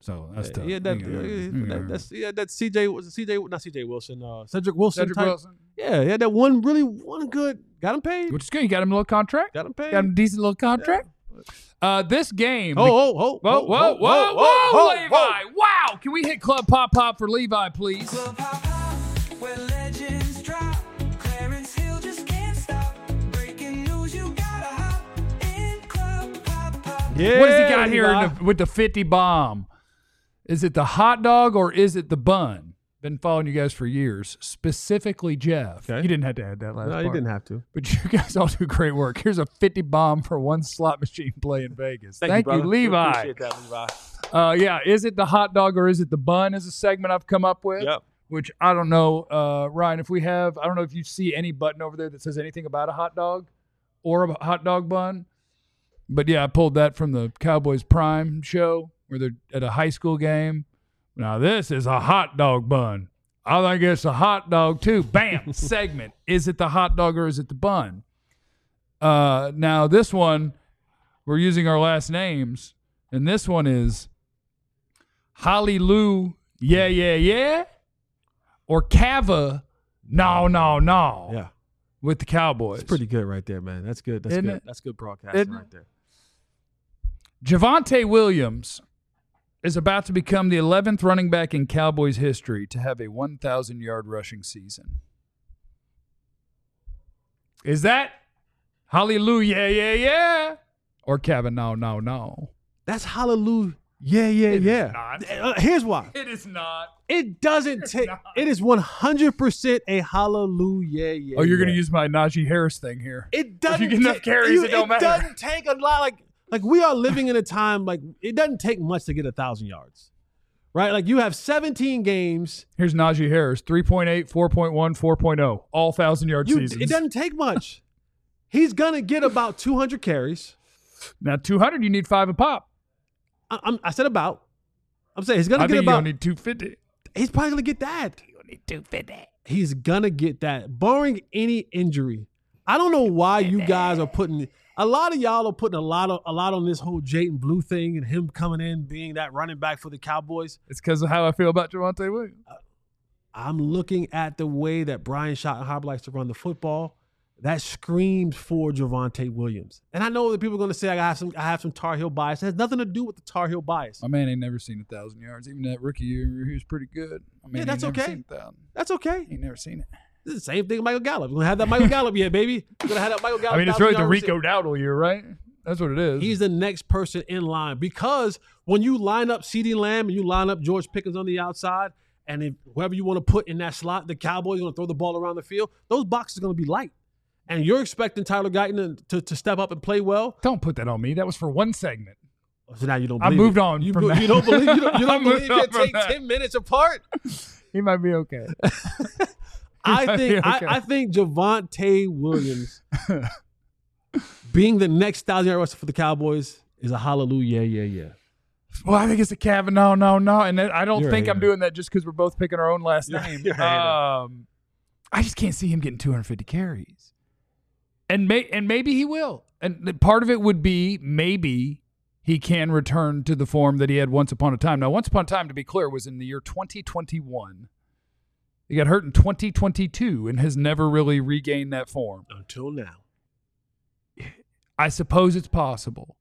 So that's tough. Yeah, that, Yeah, uh, yeah. that, that's yeah, that's C J was C J not C J Wilson, uh, Cedric Wilson. Cedric type. Wilson. Yeah, yeah, that one really one good. Got him paid. Which is good. You got him a little contract. Got him paid. Got him a decent little contract. Uh, this game. Oh, oh, oh, Whoa, whoa, whoa, whoa, whoa, whoa, Levi! whoa. Wow! Can we hit Club Pop Pop for Levi, please? Club Pop Pop, where legends drop. Clarence Hill just can't stop. Breaking news, you gotta hop in Club Pop Pop. Yeah, What has he got here Levi. in the, with the fifty bomb? Is it the hot dog or is it the bun? Been following you guys for years, specifically Jeff. Okay. You didn't have to add that last No, part. you didn't have to. But you guys all do great work. Here's a fifty bomb for one slot machine play in Vegas. Thank, you, brother. We Levi. Appreciate that, Levi. Uh, yeah, is it the hot dog or is it the bun is a segment I've come up with. Yep. Which I don't know, uh, Ryan, if we have, I don't know if you see any button over there that says anything about a hot dog or a hot dog bun. But yeah, I pulled that from the Cowboys Prime show where they're at a high school game. Now this is a hot dog bun. I think it's a hot dog too. Bam, segment. Is it the hot dog or is it the bun? Uh, now this one, we're using our last names, and this one is Holly Lou, yeah, yeah, yeah, or Cava, no, no, no. Yeah. With the Cowboys. It's pretty good right there, man. That's good. That's Isn't good. it? That's good broadcasting Isn't it? right there. Javonte Williams is about to become the eleventh running back in Cowboys history to have a one thousand yard rushing season. Is that hallelujah, yeah, yeah, or Kevin, no, no, no? That's hallelujah. Yeah, yeah, It is yeah. not. Uh, here's why. It is not. It doesn't take. not. It is one hundred percent a hallelujah. Yeah, Oh, you're yeah. going to use my Najee Harris thing here. It doesn't. get enough take- carries, you- it don't matter. doesn't take a lot. Like, like we are living in a time like it doesn't take much to get a thousand yards, right? Like you have seventeen games. Here's Najee Harris, three point eight, four point one, four point oh, all one thousand yard You, seasons. it doesn't take much. He's gonna get about two hundred carries. Now, two hundred, you need five a pop. I, I'm, I said about. I'm saying he's gonna I get think you about. don't need two fifty. He's probably gonna get that. You don't need two fifty. He's gonna get that, barring any injury. I don't know why you guys are putting a lot of y'all are putting a lot of a lot on this whole Jayden Blue thing and him coming in being that running back for the Cowboys. It's because of how I feel about Javonte Williams. I'm looking at the way that Brian Schottenheimer likes to run the football. That screams for Javonte Williams. And I know that people are going to say I have some I have some Tar Heel bias. It has nothing to do with the Tar Heel bias. My man ain't never seen a thousand yards. Even that rookie year, he was pretty good. I mean, Yeah, that's he ain't never okay. Seen a thousand. That's okay. He ain't never seen it. This is the same thing with Michael Gallup. We're going to have that Michael Gallup yet, baby. We're going to have that Michael Gallup. I mean, it's thousand really the yard Rico receiver. Dowdle year, right? That's what it is. He's the next person in line because when you line up CeeDee Lamb and you line up George Pickens on the outside, and if whoever you want to put in that slot, the Cowboys are going to throw the ball around the field, those boxes are going to be light. And you're expecting Tyler Guyton to, to step up and play well. Don't put that on me. That was for one segment. So now you don't I believe moved it. on You, from you that. don't believe you don't, you I don't moved believe on it from take that. ten minutes apart? He might be okay. I might think be okay. I, I think Javonte Williams being the next thousand yard rusher for the Cowboys is a hallelujah, yeah, yeah. Well, I think it's a Kavanaugh, no, no, and that, I don't You're think a I'm hater. doing that just because we're both picking our own last You're- name. you're a hater. Um, I just can't see him getting two hundred fifty carries, and may and maybe he will. And the- part of it would be maybe he can return to the form that he had once upon a time. Now, once upon a time, to be clear, was in the year twenty twenty-one. He got hurt in twenty twenty-two and has never really regained that form. Until now. I suppose it's possible.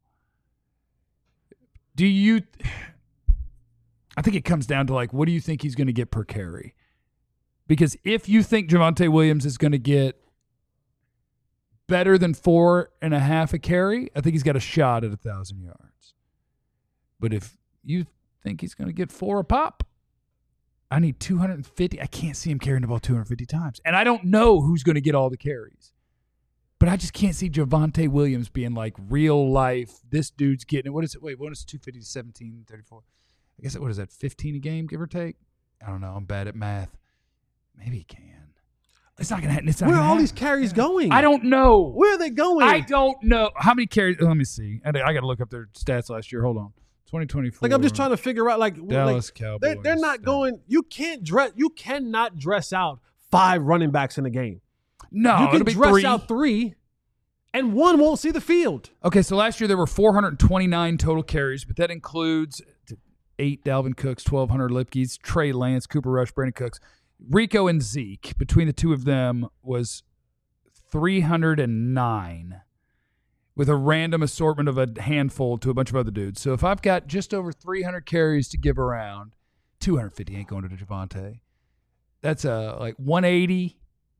Do you – I think it comes down to, like, what do you think he's going to get per carry? Because if you think Javonte Williams is going to get better than four and a half a carry, I think he's got a shot at one thousand yards. But if you think he's going to get four a pop, I need two hundred fifty. I can't see him carrying the ball two hundred fifty times. And I don't know who's going to get all the carries. But I just can't see Javonte Williams being like real life. This dude's getting it. What is it? Wait, what is two fifty to seventeen, thirty-four? I guess, what is that, fifteen a game, give or take? I don't know. I'm bad at math. Maybe he can. It's not going to happen. It's not Where are gonna all happen. these carries going? I don't know. Where are they going? I don't know. How many carries? Let me see. I, I got to look up their stats last year. Hold on. twenty twenty-four. Like I'm just trying to figure out like, Dallas like Cowboys. they're, they're not stats. going. You can't dress. You cannot dress out five running backs in a game. No, you it'll can be dress three. out three, and one won't see the field. Okay, so last year there were four hundred twenty-nine total carries, but that includes eight Dalvin Cooks, twelve Hunter Lipkes, Trey Lance, Cooper Rush, Brandon Cooks. Rico and Zeke, between the two of them, was three hundred nine with a random assortment of a handful to a bunch of other dudes. So if I've got just over three hundred carries to give around, two hundred fifty ain't going to Javonte. That's uh, like one eighty,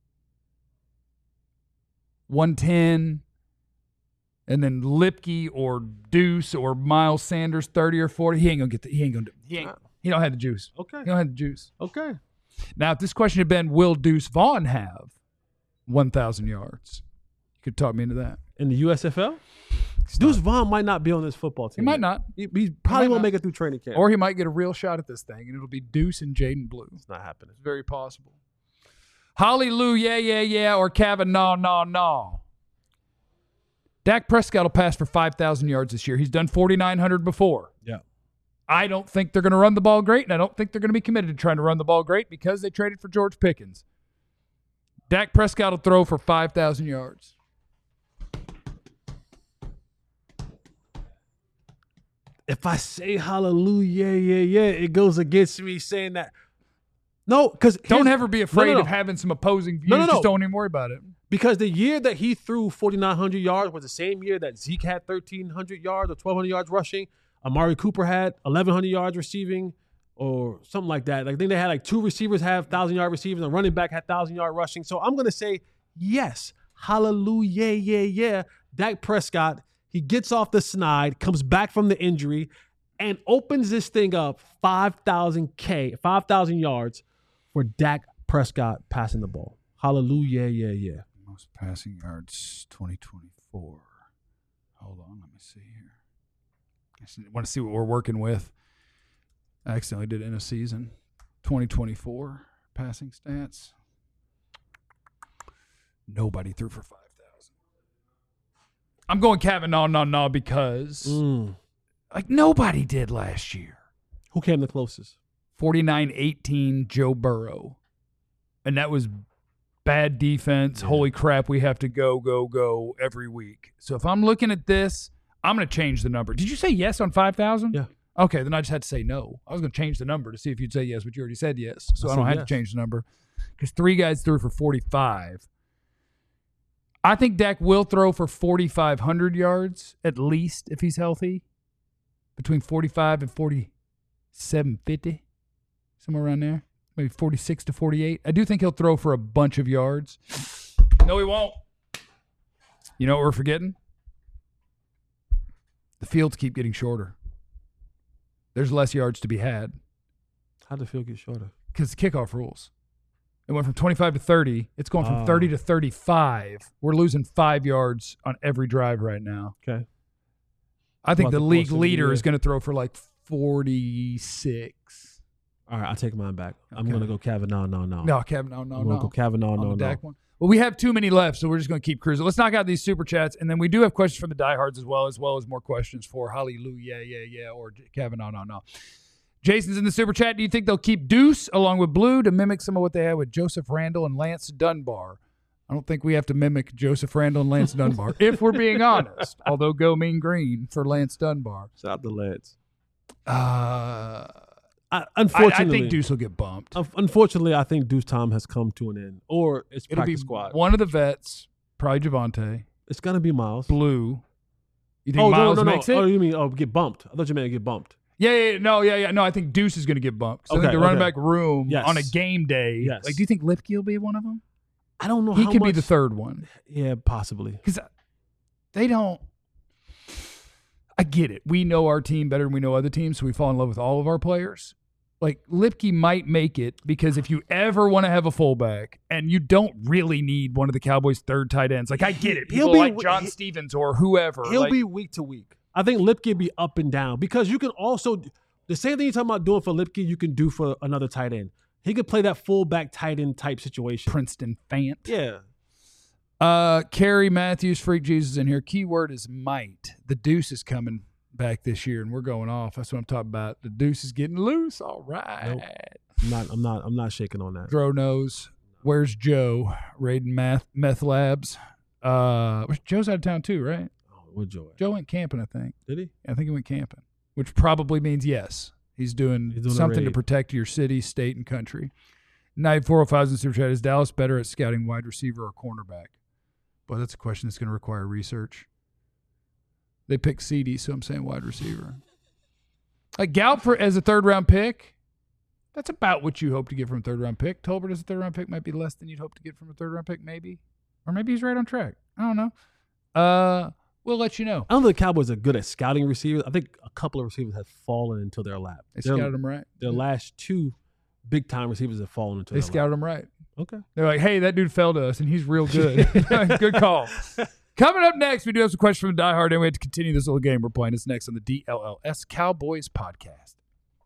one ten, and then Lipke or Deuce or Miles Sanders thirty or forty. He ain't gonna get the, he ain't gonna he ain't he don't have the juice. Okay. He don't have the juice. Okay. Now, if this question had been, will Deuce Vaughn have one thousand yards? You could talk me into that. In the U S F L? Deuce Vaughn might not be on this football team. He might not. He, he probably might won't not. make it through training camp. Or he might get a real shot at this thing, and it'll be Deuce and Jaden Blue. It's not happening. It's very possible. Hallelujah, yeah, yeah, or Kavanaugh, no, no. Dak Prescott will pass for five thousand yards this year. He's done forty-nine hundred before. Yeah. I don't think they're going to run the ball great, and I don't think they're going to be committed to trying to run the ball great because they traded for George Pickens. Dak Prescott will throw for five thousand yards. If I say hallelujah, yeah, yeah, it goes against me saying that. No, because Don't ever be afraid no, no, no. of having some opposing views. No, no, no. Just don't even worry about it. Because the year that he threw forty-nine hundred yards was the same year that Zeke had thirteen hundred yards or twelve hundred yards rushing. Amari Cooper had eleven hundred yards receiving or something like that. Like, I think they had like two receivers have one thousand yard receiving, and a running back had one thousand yard rushing. So I'm going to say yes. Hallelujah, yeah, yeah. Dak Prescott, he gets off the snide, comes back from the injury, and opens this thing up five thousand K, five thousand yards for Dak Prescott passing the ball. Hallelujah, yeah, yeah. Most passing yards twenty twenty-four. Hold on, let me see here. I just want to see what we're working with. I accidentally did it in a season. twenty twenty-four passing stats. Nobody threw for five thousand. I'm going Kavanaugh, no, no, because Mm. like nobody did last year. Who came the closest? forty-nine eighteen Joe Burrow. And that was bad defense. Yeah. Holy crap, we have to go, go, go every week. So if I'm looking at this, I'm going to change the number. Did you say yes on five thousand? Yeah. Okay, then I just had to say no. I was going to change the number to see if you'd say yes, but you already said yes. So I I, don't said have yes. to change the number because three guys threw for forty-five. I think Dak will throw for forty-five hundred yards at least if he's healthy, between forty-five and forty-seven fifty, somewhere around there, maybe forty-six to forty-eight. I do think he'll throw for a bunch of yards. No, he won't. You know what we're forgetting? The fields keep getting shorter. There's less yards to be had How'd the field get shorter? because the kickoff rules. It went from twenty-five to thirty. It's going from Oh. thirty to thirty-five. We're losing five yards on every drive right now. Okay. I think About the the league course of the leader year. is going to throw for like forty-six. All right, I'll take mine back. I'm Okay. going to go Kavanaugh, no, no. No, Kevin, no, no, I'm going no. to go Kavanaugh, On no, the no. Dak one. Well, we have too many left, so we're just going to keep cruising. Let's knock out these super chats, and then we do have questions from the diehards as well, as well as more questions for Hallelujah, yeah, yeah, or Kevin, no, no, no. Jason's in the super chat. Do you think they'll keep Deuce along with Blue to mimic some of what they had with Joseph Randall and Lance Dunbar? I don't think we have to mimic Joseph Randall and Lance Dunbar, if we're being honest. Although go mean green for Lance Dunbar. Shout out to Lance. Uh, I, I, unfortunately, I think Deuce will get bumped. un- unfortunately, I think Deuce time has come to an end, or it's It'll be practice squad. one of the vets, probably Javonte, It's gonna be Miles. Blue. You think Oh Miles no, no, no! makes it? Oh, you mean oh get bumped? I thought you meant get bumped. Yeah, yeah, yeah, no, yeah, yeah. No, I think Deuce is going to get bumped. So I Okay, think the running okay. back room Yes. on a game day. Yes. Like, do you think Lipke will be one of them? I don't know. He how could much, be the third one. Yeah, possibly. Because they don't. I get it. We know our team better than we know other teams, so we fall in love with all of our players. Like, Lipke might make it because if you ever want to have a fullback and you don't really need one of the Cowboys' third tight ends, like, I get it. He'll People be- like John he- Stevens or whoever. He'll like, be week to week. I think Lipke be up and down because you can also the same thing you're talking about doing for Lipke, you can do for another tight end. He could play that fullback tight end type situation. Princeton Fant. Yeah. Uh, Carrie Matthews, Freak Jesus in here. Keyword is might. The Deuce is coming back this year, and we're going off. That's what I'm talking about. The Deuce is getting loose. All right. Nope. I'm not. I'm not. I'm not shaking on that. Dro knows. Where's Joe? Raiding Math Meth Labs. Uh, Joe's out of town too, right? Oh, with joy. Joe went camping, I think. Did he? I think he went camping, which probably means yes. He's doing, He's doing a something to raid. protect your city, state, and country. Night four oh five in Super Chat. Is Dallas better at scouting wide receiver or cornerback? Well, that's a question that's going to require research. They picked C D, so I'm saying wide receiver. Like Gallup for, as a third-round pick, that's about what you hope to get from a third-round pick. Tolbert as a third-round pick might be less than you'd hope to get from a third-round pick, maybe. Or maybe he's right on track. I don't know. Uh, we'll let you know. I don't think the Cowboys are good at scouting receivers. I think a couple of receivers have fallen into their lap. They Their- scouted him right. Their last two big-time receivers have fallen into They their scouted lap. him right. Okay. They're like, hey, that dude fell to us, and he's real good. Good call. Coming up next, we do have some questions from the Die Hard, and we have to continue this little game we're playing. It's next on the D L L S Cowboys podcast.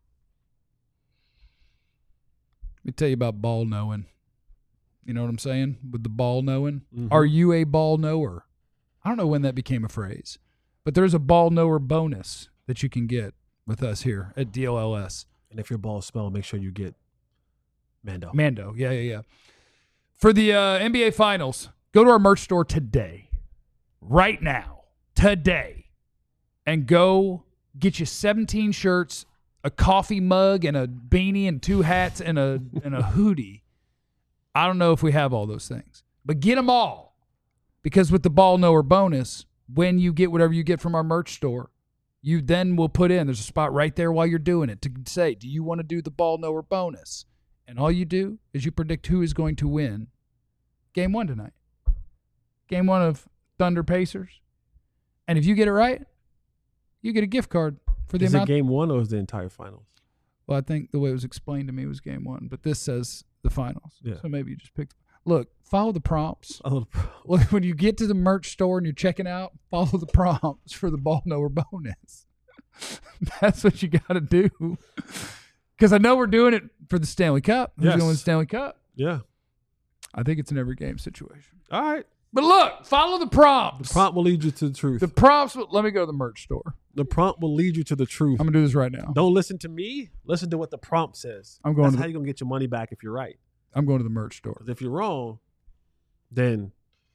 Let me tell you about ball knowing. You know what I'm saying? With the ball knowing. Mhm. Are you a ball knower? I don't know when that became a phrase, but there's a ball knower bonus that you can get with us here at D L L S. And if your balls smell, make sure you get Mando. Mando, yeah, yeah, yeah. For the uh, N B A Finals, go to our merch store today, right now, today, and go get you seventeen shirts, a coffee mug, and a beanie, and two hats, and a and a hoodie. I don't know if we have all those things, but get them all, because with the ball knower bonus, when you get whatever you get from our merch store, you then will put in, there's a spot right there while you're doing it to say, do you want to do the ball knower bonus? And all you do is you predict who is going to win game one tonight. Game one of Thunder Pacers. And if you get it right, you get a gift card for the Is it amount. game one or is the entire finals? Well, I think the way it was explained to me was game one, but this says the finals. Yeah. So maybe you just pick. Look, follow the prompts. A little- Look, when you get to the merch store and you're checking out, follow the prompts for the ball knower bonus. That's what you got to do. Because I know we're doing it for the Stanley Cup. Who's Yes. going to win the Stanley Cup? Yeah. I think it's an every game situation. All right. But look, follow the prompts. The prompt will lead you to the truth. The The, prompts. will- Let me go to the merch store. prompt will lead you to the truth. I'm gonna do this right now. Don't listen to me. Listen to what the prompt says. I'm going That's to how the- you're going to get your money back if you're right. I'm going to the merch store. Because if you're wrong, then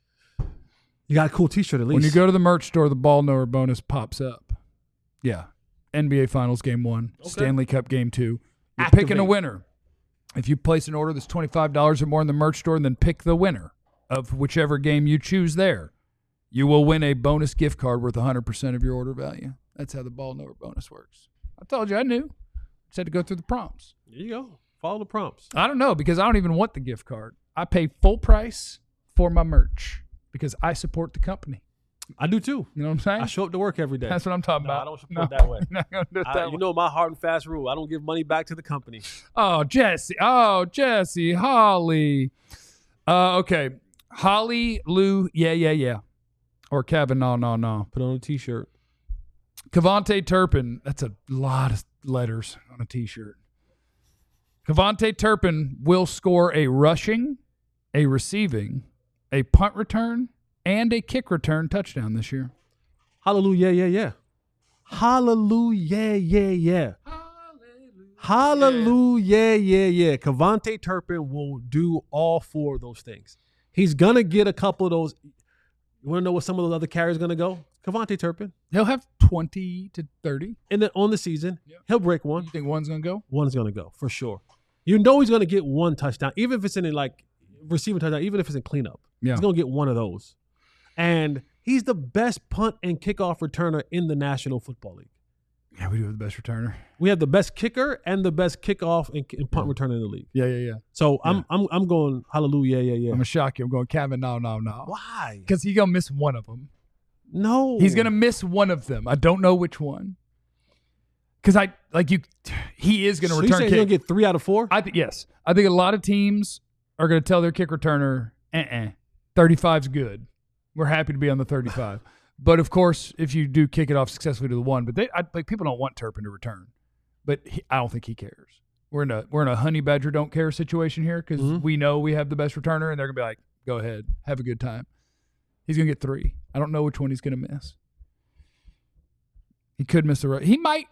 you got a cool T-shirt at least. When you go to the merch store, the ball knower bonus pops up. Yeah, N B A Finals game one, Okay. Stanley Cup game two. You're Activate. picking a winner. If you place an order that's twenty-five dollars or more in the merch store, then pick the winner of whichever game you choose there. You will win a bonus gift card worth one hundred percent of your order value. That's how the ball knower bonus works. I told you I knew. Just had to go through the prompts. There you go. Follow the prompts. I don't know because I don't even want the gift card. I pay full price for my merch because I support the company. I do too. You know what I'm saying? I show up to work every day. That's what I'm talking No, about. I don't support that way. Not gonna do it I- that you way. know my hard and fast rule. I don't give money back to the company. Oh, Jesse. Oh, Jesse. Holly. Uh, okay. Holly, Lou, yeah, yeah, yeah. Or Kevin, no, no, no. Put on a T-shirt. Cavante Turpin. That's a lot of letters on a T-shirt. Cavante Turpin will score a rushing, a receiving, a punt return, and a kick return touchdown this year. Hallelujah, yeah, yeah. Hallelujah, yeah, yeah. Hallelujah, yeah, yeah. Cavante Turpin will do all four of those things. He's going to get a couple of those. You want to know what some of those other carriers going to go? Cavante Turpin. He'll have twenty to thirty. And then on the season, Yeah. he'll break one. You think one's going to go? One's going to go for sure. You know he's going to get one touchdown, even if it's in a, like receiving touchdown, even if it's in cleanup. Yeah. He's going to get one of those. And he's the best punt and kickoff returner in the National Football League. Yeah, we do have the best returner. We have the best kicker and the best kickoff and, and punt returner in the league. Yeah, yeah, yeah. So Yeah. I'm I'm I'm going hallelujah, yeah, yeah. I'm gonna shock you. I'm going Kevin. No, no, no. Why? Because he's gonna miss one of them. No. He's gonna miss one of them. I don't know which one. Because I like you. He is gonna so you return saying kick. he's gonna get three out of four? I think yes. I think a lot of teams are gonna tell their kick returner, uh-uh, thirty-five's good. We're happy to be on the thirty-five. But of course, if you do kick it off successfully to the one, but they I, like people don't want Turpin to return. But he, I don't think he cares. We're in a we're in a honey badger don't care situation here because Mhm. we know we have the best returner, and they're gonna be like, go ahead, have a good time. He's gonna get three. I don't know which one he's gonna miss. He could miss the right. He might.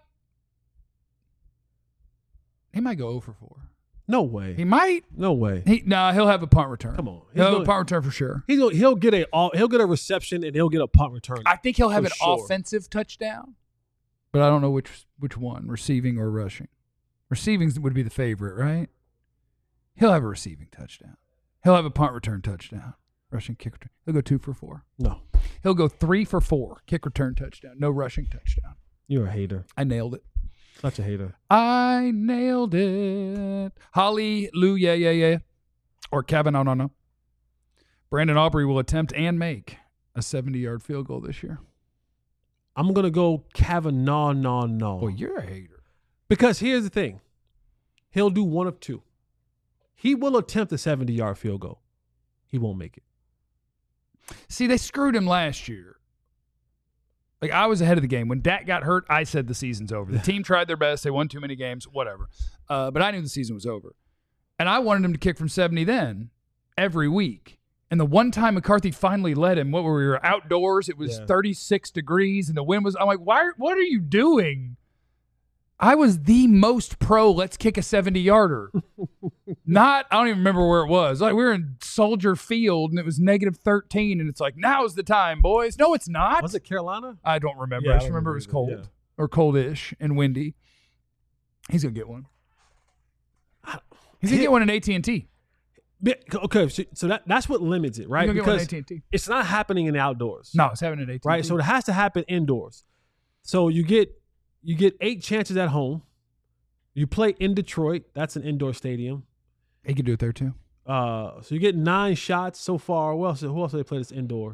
He might go zero for four. No way. He might. no way. He no. He'll have a punt return. Come on. He's He'll have a gonna- punt return for sure. He's gonna, he'll get a all- he'll get a reception and he'll get a punt return. I think he'll have For an sure. offensive touchdown. but I don't know which which one, receiving or rushing. Receiving would be the favorite, right? He'll have a receiving touchdown. He'll have a punt return touchdown. Rushing kick return. He'll go two for four. No. He'll go three for four. Kick return touchdown. No rushing touchdown. You're a hater. I nailed it. Such a hater. I nailed it. Hallelujah, yeah, yeah. Or Kevin, no, no, no. Brandon Aubrey will attempt and make a seventy-yard field goal this year. I'm going to go Kavanaugh, no, no. Boy, you're a hater. Because here's the thing. He'll do one of two. He will attempt a seventy-yard field goal. He won't make it. See, they screwed him last year. Like, I was ahead of the game. When Dak got hurt, I said the season's over. The team tried their best. They won too many games, whatever. Uh, but I knew the season was over. And I wanted him to kick from seventy then, every week. And the one time McCarthy finally let him, what were we were outdoors, it was Yeah. thirty-six degrees, and the wind was, I'm like, why? What are you doing? I was the most pro, let's kick a seventy-yarder. Not, I don't even remember where it was. Like, we were in Soldier Field, and it was negative thirteen, and it's like, now's the time, boys. No, it's not. Was it Carolina? I don't remember. Yeah, I I just don't remember it was remember cold either, or coldish and windy. He's going to get one. He's going to get one in A T and T. Yeah, okay, so, so that, that's what limits it, right? He's going to get one in Because A T and T. it's not happening in the outdoors. No, it's happening in A T and T. Right? So it has to happen indoors. So you get you get eight chances at home. You play in Detroit. That's an indoor stadium. He could do it there too. Uh, so you get nine shots so far. Who else, who else do they play this indoors?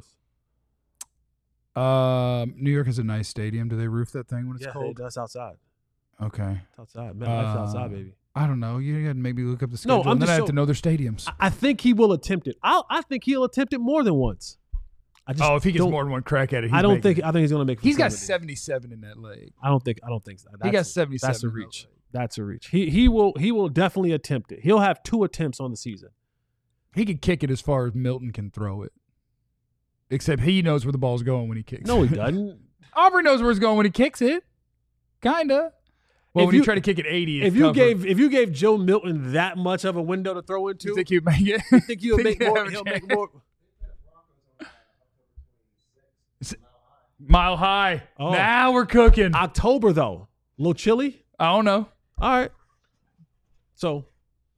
Um, New York has a nice stadium. Do they roof that thing when it's yeah, cold? that's outside. Okay. It's outside. Man, that's Uh, outside, baby. I don't know. You got to maybe look up the No, schedule. I'm and then just I have so- to know their stadiums. I, I think he will attempt it. I I think he'll attempt it more than once. I just Oh, if he gets don't- more than one crack at it, he's I don't making think. it. I think he's going to make. it He's from got seventy. seventy-seven in that leg. I don't think. I don't think so. He got That's- seventy-seven. That's a in that reach. leg. That's a reach. He he will he will definitely attempt it. He'll have two attempts on the season. He could kick it as far as Milton can throw it. Except he knows where the ball's going when he kicks No, it. he doesn't. Aubrey knows where it's going when he kicks it. Kinda. Well, If when you- you try to kick it eighty, it's if you covered. gave if you gave Joe Milton that much of a window to throw into, you think he'd make it? I think he'll make he'd more. have a He'll chance? make more. Mile high. Oh. Now we're cooking. I, October though, a little chilly. don't know. All right. So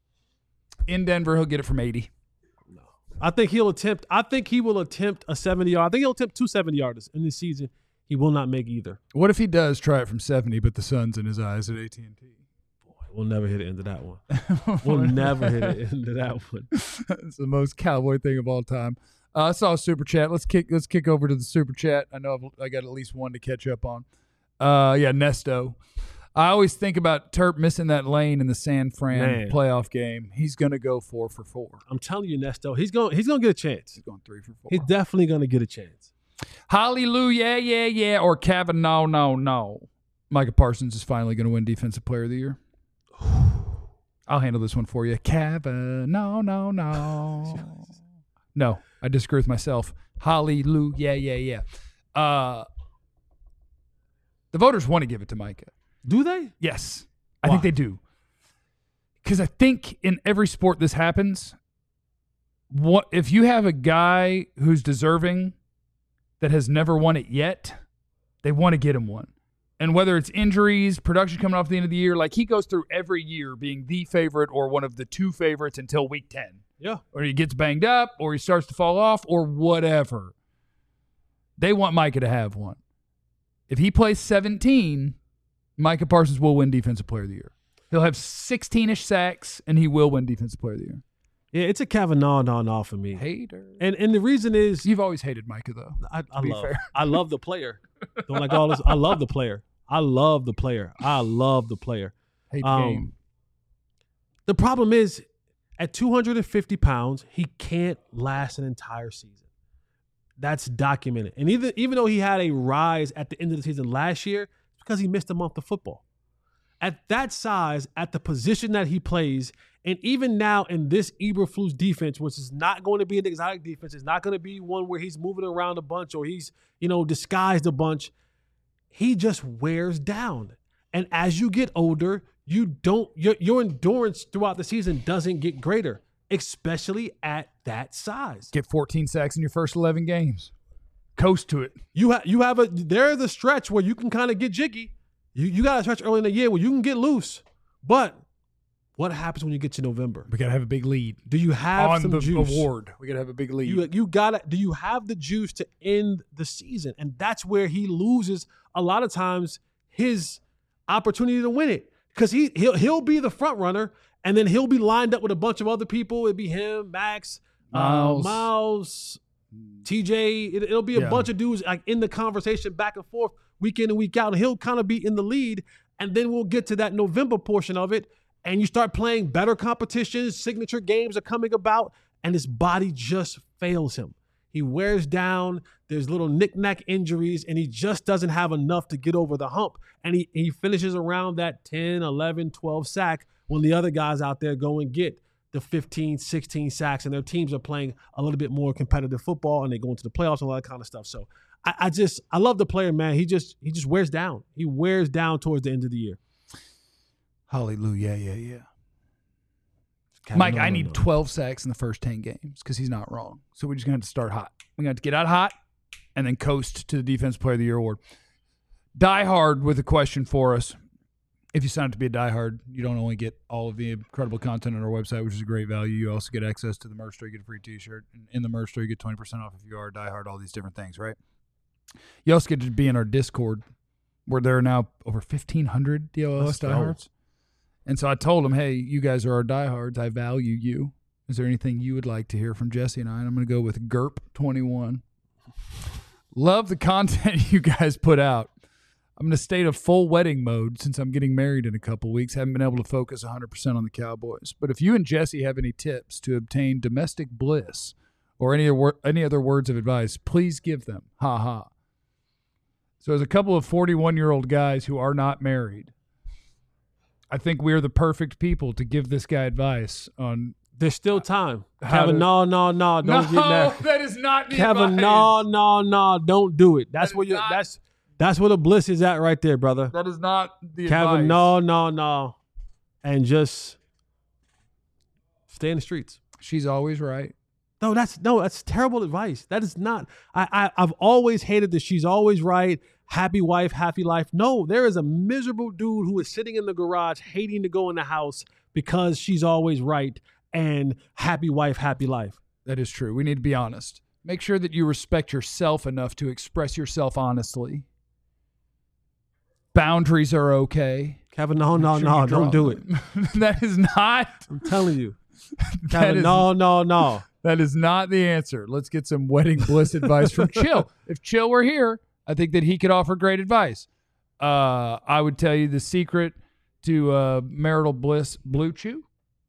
In Denver, he'll get it from eighty. I think he'll attempt. I think he will attempt a seventy yard. I think he'll attempt two seventy yarders in this season. He will not make either. What if he does try it from seventy, but the sun's in his eyes at A T and T? We'll never hit it into that one. We'll never hit it into that one. It's the most cowboy thing of all time. Uh, I saw a super chat. Let's kick. Let's kick over to the super chat. I know I've, I got at least one to catch up on. Uh, yeah, Nesto. I always think about Terp missing that lane in the San Fran Man. playoff game. He's gonna go four for four. I'm telling you, Nesto, he's going. He's going to get a chance. He's going three for four. He's definitely going to get a chance. Hallelujah, yeah, yeah, or Kavanaugh, no, no. Micah Parsons is finally going to win Defensive Player of the Year. I'll handle this one for you. Kavanaugh, no, no. No, I disagree with myself. Hallelujah, yeah, yeah. Uh, the voters want to give it to Micah. Do they? Yes, I Why? think they do. Because I think in every sport this happens. What if you have a guy who's deserving that has never won it yet? They want to get him one. And whether it's injuries, production coming off the end of the year, like he goes through every year being the favorite or one of the two favorites until week ten. Yeah. Or he gets banged up or he starts to fall off or whatever. They want Micah to have one. If he plays seventeen, Micah Parsons will win Defensive Player of the Year. He'll have sixteen-ish sacks, and he will win Defensive Player of the Year. Yeah, it's a Kavanaugh no no for me. Hater. And and the reason is You've always hated Micah, though. I, I be love fair. I love the player. Don't like all this. I love the player. I love the player. I love the player. Hate the Um, game. The problem is, at two hundred fifty pounds, he can't last an entire season. That's documented. And even even though he had a rise at the end of the season last year, it's because he missed a month of football. At that size, at the position that he plays, and even now in this Eberflus defense, which is not going to be an exotic defense, it's not going to be one where he's moving around a bunch or he's, you know, disguised a bunch. He just wears down. And as you get older, you don't your, your endurance throughout the season doesn't get greater, especially at that size. Get fourteen sacks in your first eleven games. Coast to it. You have you have a there's a stretch where you can kind of get jiggy. You you got to stretch early in the year where you can get loose. But what happens when you get to November? We got to have a big lead. Do you have on some the juice? award? We got to have a big lead. You you gotta. Do you have the juice to end the season? And that's where he loses a lot of times his opportunity to win it, because he he'll he'll be the front runner, and then he'll be lined up with a bunch of other people. It'd be him, Max, Miles, uh, Miles, T J. It, it'll be a Yeah. bunch of dudes like in the conversation back and forth, week in and week out, and he'll kind of be in the lead. And then we'll get to that November portion of it, and you start playing better competitions. Signature games are coming about, and his body just fails him. He wears down. There's little knick-knack injuries, and he just doesn't have enough to get over the hump. And he, he finishes around that ten, eleven, twelve sack when the other guys out there go and get the fifteen, sixteen sacks, and their teams are playing a little bit more competitive football, and they go into the playoffs and all that kind of stuff. So I, I just I love the player, man. He just he just wears down. He wears down towards the end of the year. Hallelujah, yeah, yeah. Kevin, Mike, no, I no, need no. twelve sacks in the first ten games because he's not wrong. So we're just going to have to start hot. We're going to have to get out hot and then coast to the Defense Player of the Year award. Die Hard with a question for us. If you sign up to be a Die Hard, you don't only get all of the incredible content on our website, which is a great value. You also get access to the merch store. You get a free T-shirt. And in the merch store, you get twenty percent off if you are a Die Hard, all these different things, right? You also get to be in our Discord, where there are now over fifteen hundred D L O S Let's go. diehards. And so I told him, hey, you guys are our diehards. I value you. Is there anything you would like to hear from Jesse and I? And I'm going to go with G U R P twenty-one. Love the content you guys put out. I'm in a state of full wedding mode since I'm getting married in a couple weeks. Haven't been able to focus one hundred percent on the Cowboys. But if you and Jesse have any tips to obtain domestic bliss or any, any other words of advice, please give them. Ha ha. So as a couple of forty-one-year-old guys who are not married, I think we are the perfect people to give this guy advice on. There's still time. How Kevin, to- no, no, no, don't get married. that is not the Kevin, advice. no, no, no, don't do it. That's That where is you not- that's that's where the bliss is at right there, brother. That is not the Kevin, advice. no, no, no. And just stay in the streets. She's always right. No, that's no, that's terrible advice. That is not. I, I I've always hated that she's always right. Happy wife, happy life. No, there is a miserable dude who is sitting in the garage hating to go in the house because she's always right, and happy wife, happy life. That is true. We need to be honest. Make sure that you respect yourself enough to express yourself honestly. Boundaries are okay. Kevin, no, no, Make sure no, you draw don't do it. them. That is not. I'm telling you. That Kevin, is, no, no, no. that is not the answer. Let's get some wedding bliss advice from Chill. If Chill were here, I think that he could offer great advice. Uh, I would tell you the secret to uh, marital bliss: Blue Chew.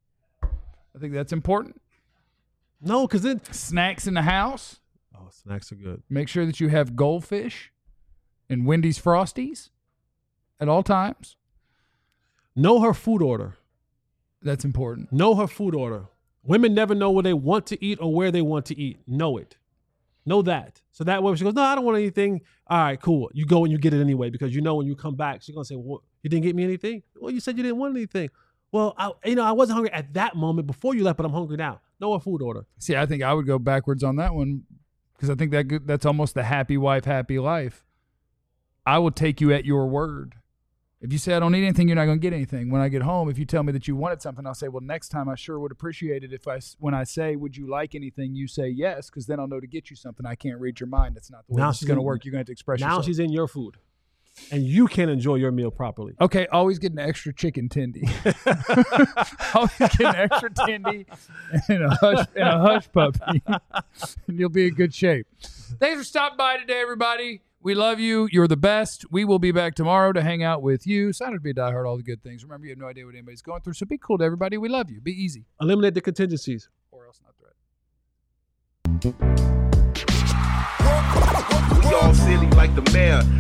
I think that's important. No, because then Snacks in the house. oh, snacks are good. Make sure that you have goldfish and Wendy's Frosties at all times. Know her food order. That's important. Know her food order. Women never know what they want to eat or where they want to eat. Know it. Know that. So that way, if she goes, no, I don't want anything. All right, cool. You go and you get it anyway, because you know when you come back, she's gonna say, well, you didn't get me anything? Well, you said you didn't want anything. Well, I, you know, I wasn't hungry at that moment before you left, but I'm hungry now. Know her food order. See, I think I would go backwards on that one because I think that that's almost the happy wife, happy life. I will take you at your word. If you say I don't need anything, you're not going to get anything. When I get home, if you tell me that you wanted something, I'll say, well, next time I sure would appreciate it if I, when I say, would you like anything, you say yes, because then I'll know to get you something. I can't read your mind. That's not the way Now this is she's going to in- work. You're going to have to express Now yourself. she's in your food, and you can't enjoy your meal properly. Okay, always get an extra chicken tendy. Always get an extra tendy and a hush and a hush puppy, and you'll be in good shape. Thanks for stopping by today, everybody. We love you. You're the best. We will be back tomorrow to hang out with you. Sign up to be a diehard, all the good things. Remember, you have no idea what anybody's going through, so be cool to everybody. We love you. Be easy. Eliminate the contingencies. Or else not threat. We all silly like the mayor.